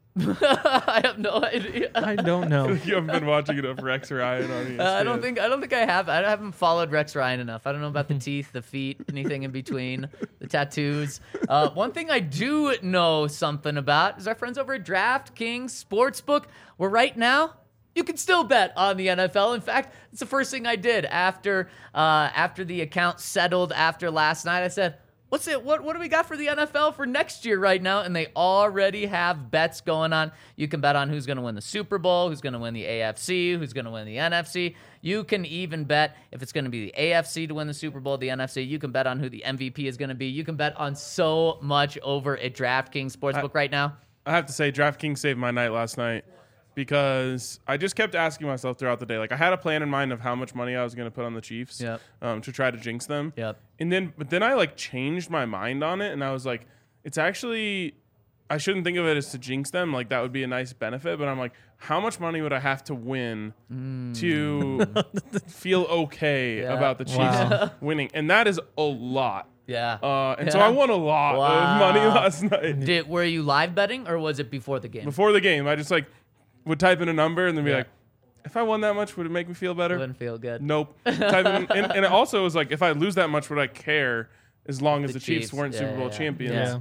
I have no idea. I don't know. You haven't been watching enough Rex Ryan on ESPN. I don't think I have. I haven't followed Rex Ryan enough. I don't know about the teeth, the feet, anything in between, the tattoos. One thing I do know something about is our friends over at DraftKings Sportsbook, where right now you can still bet on the NFL. In fact, it's the first thing I did after the account settled after last night. I said, what do we got for the NFL for next year right now? And they already have bets going on. You can bet on who's going to win the Super Bowl, who's going to win the AFC, who's going to win the NFC. You can even bet if it's going to be the AFC to win the Super Bowl, the NFC. You can bet on who the MVP is going to be. You can bet on so much over at DraftKings Sportsbook right now. I have to say, DraftKings saved my night last night because I just kept asking myself throughout the day. Like, I had a plan in mind of how much money I was going to put on the Chiefs Yep. To try to jinx them. Yep. But then I like changed my mind on it, and I was like, it's actually, I shouldn't think of it as to jinx them. Like, that would be a nice benefit. But I'm like, how much money would I have to win to feel okay about the Chiefs winning? And that is a lot. Yeah. So I won a lot of money last night. Were you live betting or was it before the game? Before the game, I just like would type in a number and then be Yeah. like, if I won that much, would it make me feel better? Wouldn't feel good. Nope. Type in, and it also was like, if I lose that much, would I care as long as the Chiefs weren't Yeah, Super Bowl yeah. champions?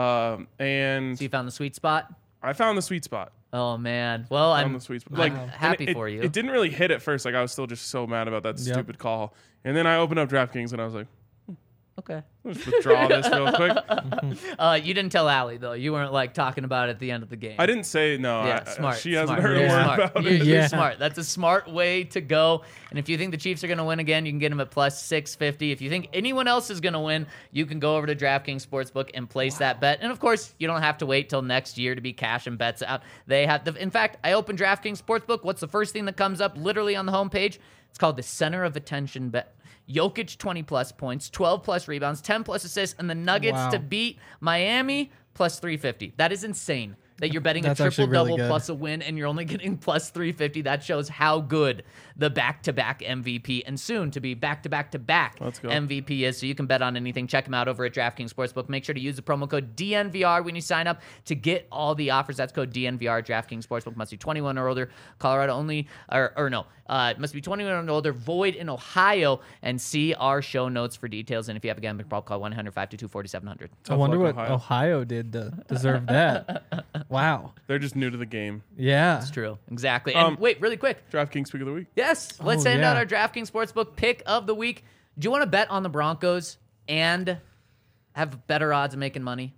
And So you found the sweet spot? I found the sweet spot. Oh, man. Well, Found I'm the sweet spot. I'm Like, happy and for you. It didn't really hit at first. Like, I was still just so mad about that stupid call. And then I opened up DraftKings and I was like, Okay. Let's withdraw this real quick. You didn't tell Allie though. You weren't like talking about it at the end of the game. I didn't say no. Yeah, smart. She hasn't smart. heard a You're word smart. about You're, it. you're Yeah. smart. That's a smart way to go. And if you think the Chiefs are going to win again, you can get them at plus 650. If you think anyone else is going to win, you can go over to DraftKings Sportsbook and place that bet. And of course, you don't have to wait till next year to be cashing bets out. They have in fact, I opened DraftKings Sportsbook. What's the first thing that comes up literally on the homepage? It's called the center of attention bet. Jokic 20 plus points, 12 plus rebounds, 10 plus assists, and the Nuggets Wow. to beat Miami plus 350. That is insane. That you're betting That's a actually triple really double good. plus a win, and you're only getting plus 350. That shows how good the back-to-back MVP and soon to be back-to-back-to-back Let's go. MVP is. So you can bet on anything. Check them out over at DraftKings Sportsbook. Make sure to use the promo code DNVR when you sign up to get all the offers. That's code DNVR. DraftKings Sportsbook must be 21 or older. Colorado only, or no, it must be 21 or older. Void in Ohio. And see our show notes for details. And if you have a gambling problem, call 1-800-522-4700. I wonder luck, what Ohio. Ohio did to deserve that. Wow. They're just new to the game. Yeah. It's true. Exactly. And wait, really quick. DraftKings pick of the week. Yes, let's Oh, send out yeah. our DraftKings Sportsbook pick of the week. Do you want to bet on the Broncos and have better odds of making money?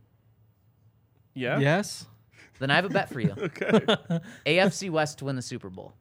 Yeah. Yes. Then I have a bet for you. Okay. AFC West to win the Super Bowl.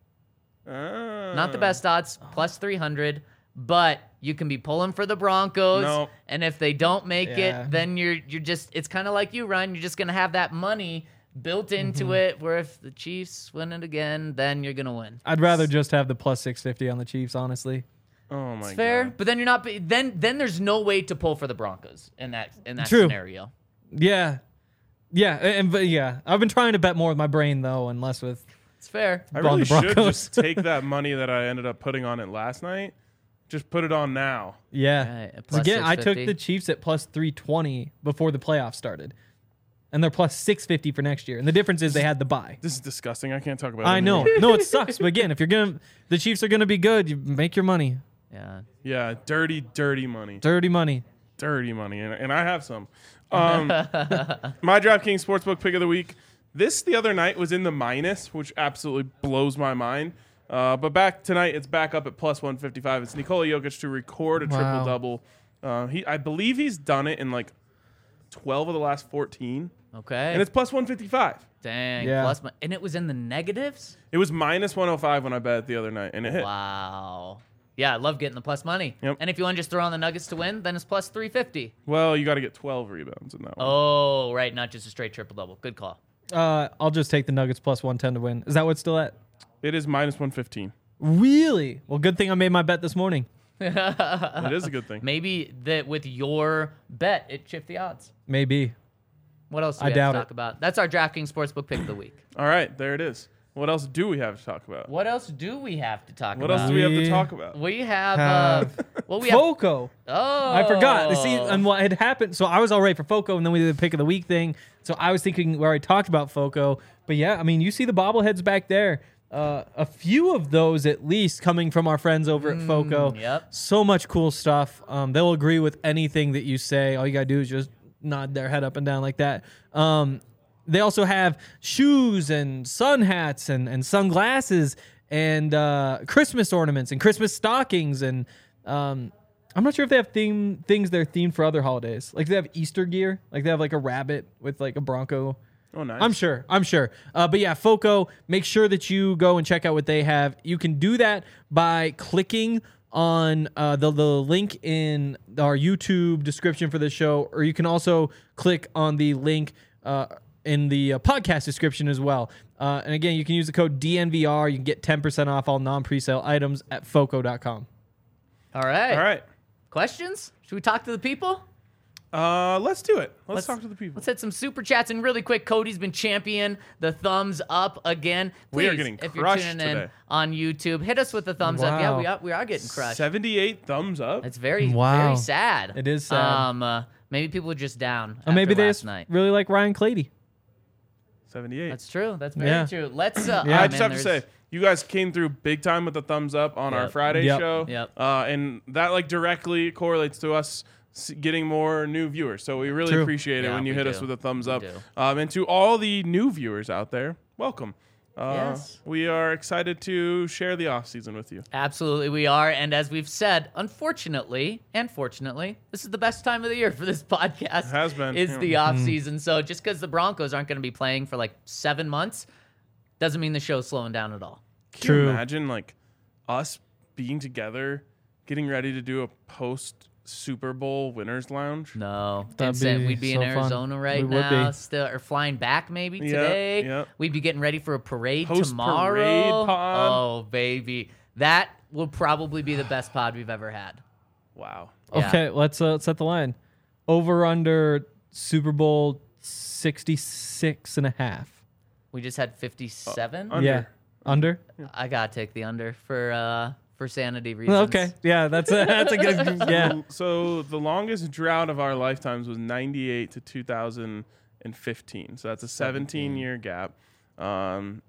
Ah. Not the best odds, plus 300, but you can be pulling for the Broncos. No. And if they don't make Yeah. it, then you're just, it's kind of like you, Ryan. You're just going to have that money built into it, where if the Chiefs win it again, then you're going to win. I'd rather just have the plus 650 on the Chiefs, honestly. Oh my It's fair, god. but then you're not. Then there's no way to pull for the Broncos in that True. scenario. Yeah. Yeah. But yeah, I've been trying to bet more with my brain, though, and less with. It's fair. I on really the should Broncos. just take that money that I ended up putting on it last night. Just put it on now. Yeah. Right, at 'Cause again, I took 650. the Chiefs at plus 320 before the playoffs started. And they're plus 650 for next year. And the difference is they had the bye. This is disgusting. I can't talk about it. I know. anymore. No, it sucks. But again, if the Chiefs are going to be good, you make your money. Yeah. Yeah, dirty, dirty money. Dirty money. Dirty money. And I have some. My DraftKings Sportsbook pick of the week. This the other night was in the minus, which absolutely blows my mind. But back tonight, it's back up at plus 155. It's Nikola Jokic to record a Wow. triple-double. I believe he's done it in like 12 of the last 14. Okay. And it's plus 155. Dang. Yeah. Plus, and it was in the negatives. It was minus 105 when I bet it the other night, and it hit. Wow. Yeah, I love getting the plus money. Yep. And if you want to just throw on the Nuggets to win, then it's plus 350. Well, you got to get 12 rebounds in that one. Oh, right, not just a straight triple double. Good call. I'll just take the Nuggets plus 110 to win. Is that what's still at? It is minus 115. Really? Well, good thing I made my bet this morning. It is a good thing. Maybe that with your bet, it shift the odds. Maybe. What else do I we have doubt to it. talk about? That's our DraftKings Sportsbook pick of the week. All right, there it is. What else do we have to talk about? What else do we have to talk What about? else do we have to We talk about? We have, Have well, we have, Foco. oh. I forgot. See, and what had happened, so I was all right for Foco, and then we did the pick of the week thing. So I was thinking we already talked about Foco. But yeah, I mean, you see the bobbleheads back there. A few of those at least coming from our friends over at Foco. yep. So much cool stuff. They'll agree with anything that you say. All you got to do is just nod their head up and down like that. They also have shoes and sun hats and sunglasses and Christmas ornaments and Christmas stockings. And I'm not sure if they have things that are themed for other holidays. Like they have Easter gear. Like they have like a rabbit with like a Bronco. Oh, nice. I'm sure. But yeah, Foco, make sure that you go and check out what they have. You can do that by clicking on the link in our YouTube description for the show, or you can also click on the link in the podcast description as well. And again, you can use the code DNVR. You can get 10% off all non-presale items at foco.com. All right. All right. Questions? Should we talk to the people? Let's do it. Let's talk to the people. Let's hit some super chats. And really quick, Cody's been champion the thumbs up again. We are Please, getting if you're crushed tuning in today. on YouTube, hit us with the thumbs up. Wow. Yeah, we are getting crushed. 78 thumbs up. It's very, Wow. very sad. It is sad. Maybe people are just down. Or maybe after they last just night. really like Ryan Clady. 78. That's true. That's very Yeah. true. Let's. Yeah. I just have to say, you guys came through big time with the thumbs up on our Yep. Friday Yep. show. Yep. And that like directly correlates to us getting more new viewers. So we really True. appreciate it Yeah, when you we hit do. us with a thumbs We up. do. And to all the new viewers out there, welcome. Yes. We are excited to share the offseason with you. Absolutely, we are. And as we've said, unfortunately and fortunately, this is the best time of the year for this podcast. It has been. It's Yeah. the off season. So just because the Broncos aren't going to be playing for like 7 months doesn't mean the show's slowing down at all. Can you imagine like us being together, getting ready to do a post Super Bowl winners lounge? No, That'd Vincent, be we'd be in so fun. Arizona right We would now, be. still, or flying back maybe Yep, today. yep. We'd be getting ready for a parade Post-parade tomorrow. pod. Oh baby, that will probably be the best pod we've ever had. Wow. Yeah. Okay, let's set the line. Over under Super Bowl 66.5. We just had 57. Under. Yeah. Under? I gotta take the under for sanity reasons. Okay. Yeah, that's a good yeah. So the longest drought of our lifetimes was 98 to 2015. So that's a 17-year gap. And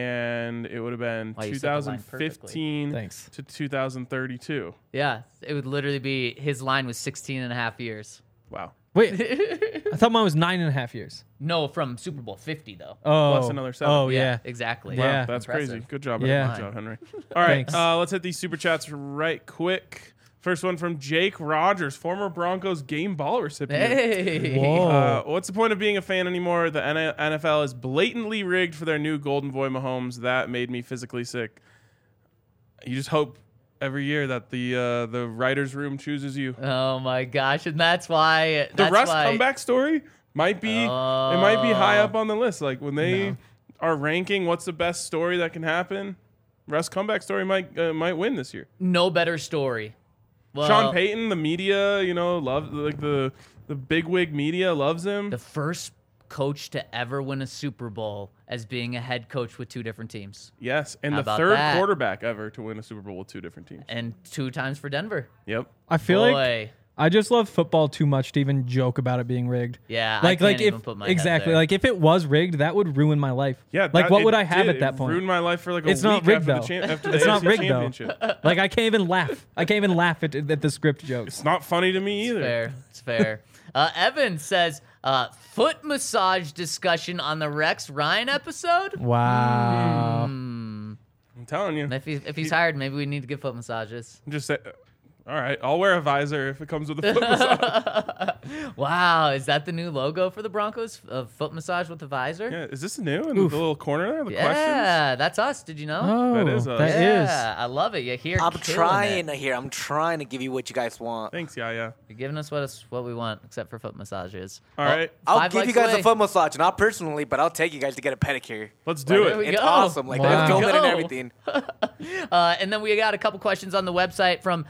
it would have been Wow, you set the line 2015 Thanks. to 2032. Yeah, it would literally be his line was 16 and a half years. Wow. Wait, I thought mine was 9.5 years. No, from Super Bowl 50 though. Oh, Plus another 7. Oh yeah. exactly. Yeah. Wow, that's Impressive. crazy. Good job. Yeah. Good job, Henry. All right, Thanks. let's hit these super chats right quick. First one from Jake Rogers, former Broncos game ball recipient. Hey. Whoa. What's the point of being a fan anymore? The NFL is blatantly rigged for their new Golden Boy Mahomes. That made me physically sick. You just hope every year that the writers' room chooses you. Oh my gosh, and that's why The Russ comeback story might be it might be high up on the list. Like when they are ranking what's the best story that can happen, Russ comeback story might win this year. No better story. Well, Sean Payton, the media, love like the bigwig media loves him. the first coach to ever win a Super Bowl as being a head coach with 2 different teams, Yes, and How the about third that? quarterback ever to win a Super Bowl with 2 different teams. and 2 times for Denver. Yep. I feel like Boy, I just love football too much to even joke about it being rigged. yeah, Like I can't if even put my head exactly there. like if it was rigged, that would ruin my life. Yeah. Like what it would I have did. at that It point? ruined my life for like a It's week not rigged after though. after the It's not AFC rigged though. championship. Like I can't even laugh. I can't even laugh at the script jokes. It's not funny to me either. Fair. It's fair. Evan says, foot massage discussion on the Rex Ryan episode. Wow. I'm telling you. If he's hired, maybe we need to give foot massages. Just say, all right, I'll wear a visor if it comes with a foot massage. Wow, is that the new logo for the Broncos? A foot massage with a visor? Yeah, is this new in the little corner there? The questions? Yeah, that's us. Did you know? Oh, That is us. that is. Yeah, I love it. You're here. I'm killing trying it. to hear. I'm trying to give you what you guys want. Thanks, yeah. You're giving us what we want, except for foot massages. All right. I'll 5 give you likes guys away. a foot massage, not personally, but I'll take you guys to get a pedicure. Let's do There we it. It's go. awesome. Like Wow. they're filming Go. and everything. And then we got a couple questions on the website from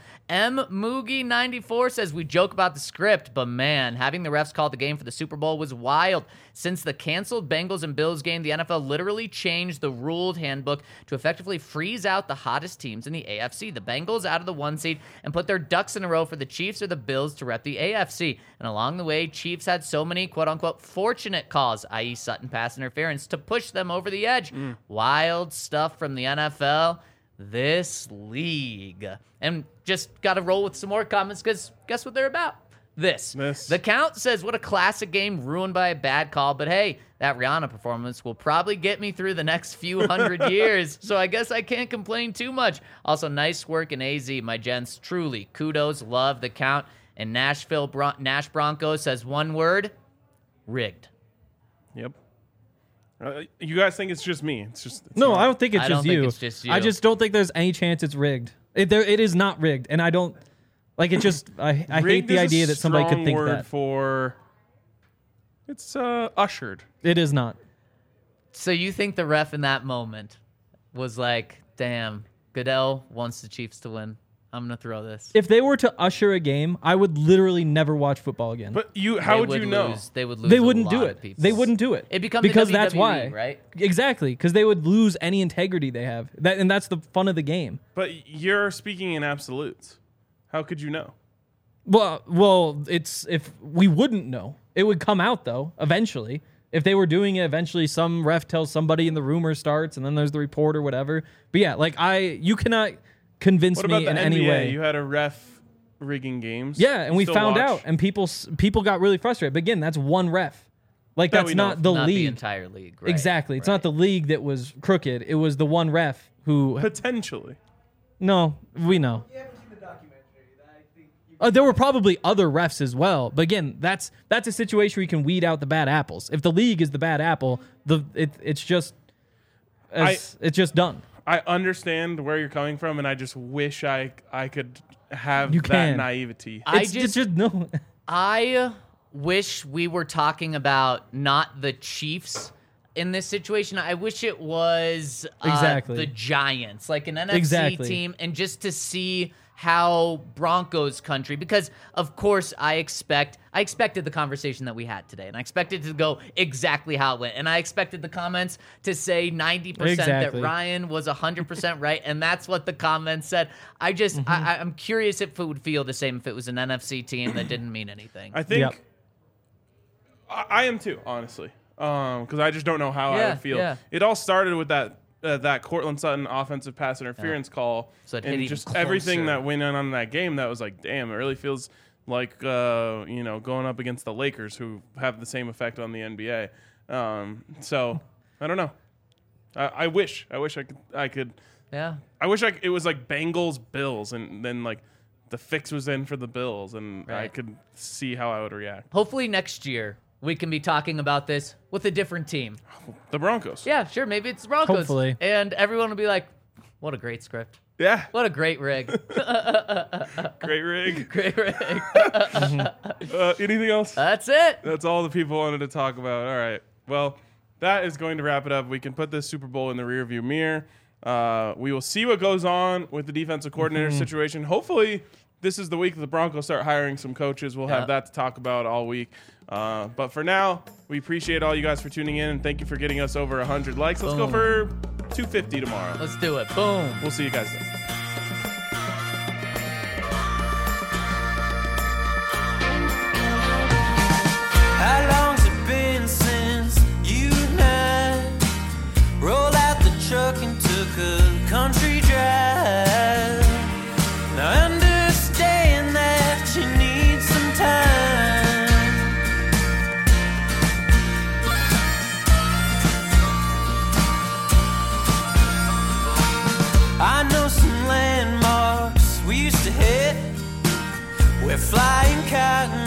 Moogie94 says, we joke about the script, but man, having the refs call the game for the Super Bowl was wild. Since the canceled Bengals and Bills game, the NFL literally changed the ruled handbook to effectively freeze out the hottest teams in the AFC. The Bengals out of the 1 seed and put their ducks in a row for the Chiefs or the Bills to rep the AFC. And along the way, Chiefs had so many quote-unquote fortunate calls, i.e. Sutton pass interference, to push them over the edge. Wild stuff from the NFL. This league. And just got to roll with some more comments because guess what they're about? This. The Count says, what a classic game ruined by a bad call. But hey, that Rihanna performance will probably get me through the next few hundred years. So I guess I can't complain too much. Also, nice work in AZ, my gents. Truly, kudos, love the Count. And Nash Broncos says one word, rigged. Yep. You guys think it's just me? It's No, not. I don't think it's I just don't think you. it's just you. I just don't think there's any chance it's rigged. It is not rigged, and I don't like it. Just I hate Rigged the is a idea that somebody could strong think word that for. It's ushered. it is not. So you think the ref in that moment was like, damn, Goodell wants the Chiefs to win. I'm going to throw this. If they were to usher a game, I would literally never watch football again. But how would you know? They would lose. they a wouldn't lot do of it. people. They wouldn't do it. It becomes because the that's WWE, why, right? Exactly, because they would lose any integrity they have. And that's the fun of the game. But you're speaking in absolutes. How could you know? Well, it's if we wouldn't know, it would come out though eventually. If they were doing it, eventually some ref tells somebody and the rumor starts, and then there's the report or whatever. But yeah, like you cannot convince What about me the in NBA? any way. You had a ref rigging games. Yeah, and we Still found watch? out, and people got really frustrated. But again, that's one ref. Like, That that's we know not of. the Not league. the entire league. Right, Exactly. It's right. not the league that was crooked. It was the one ref who. Potentially. No, we know. There were probably other refs as well, but again, that's a situation where you can weed out the bad apples. If the league is the bad apple, it's just done. I understand where you're coming from, and I just wish I could have You that can. naivety. It's just no. I wish we were talking about not the Chiefs in this situation. I wish it was Exactly. the Giants, like an NFC Exactly. team, and just to see how Broncos country, because of course I expected the conversation that we had today, and I expected it to go exactly how it went, and I expected the comments to say 90% that Exactly. Ryan was 100% right, and that's what the comments said. I'm curious if it would feel the same if it was an NFC team that didn't mean anything. I think Yep. I am too, honestly, because I just don't know how I Yeah, would feel. yeah. It all started with that Cortland Sutton offensive pass interference call, So it hit and even just everything closer. that went on that game. That was like, damn, it really feels like going up against the Lakers, who have the same effect on the NBA. So I don't know. I wish I could. Yeah. I wish it was like Bengals Bills, and then like the fix was in for the Bills, and I Right. could see how I would react. Hopefully next year we can be talking about this with a different team. The Broncos. Yeah, sure. Maybe it's the Broncos. Hopefully. And everyone will be like, what a great script. Yeah. What a great rig. Great rig. Great rig. Anything else? That's it. That's all the people wanted to talk about. All right. Well, that is going to wrap it up. We can put this Super Bowl in the rearview mirror. We will see what goes on with the defensive coordinator situation. Hopefully, this is the week that the Broncos start hiring some coaches. We'll have Yeah. that to talk about all week. But for now, we appreciate all you guys for tuning in, and thank you for getting us over 100 likes. Let's go Boom. for 250 tomorrow. Let's do it. Boom. We'll see you guys then. How long's it been since you and I rolled out the truck and took a country drive? Now I understand that you need some time. I know some landmarks we used to hit where flying cotton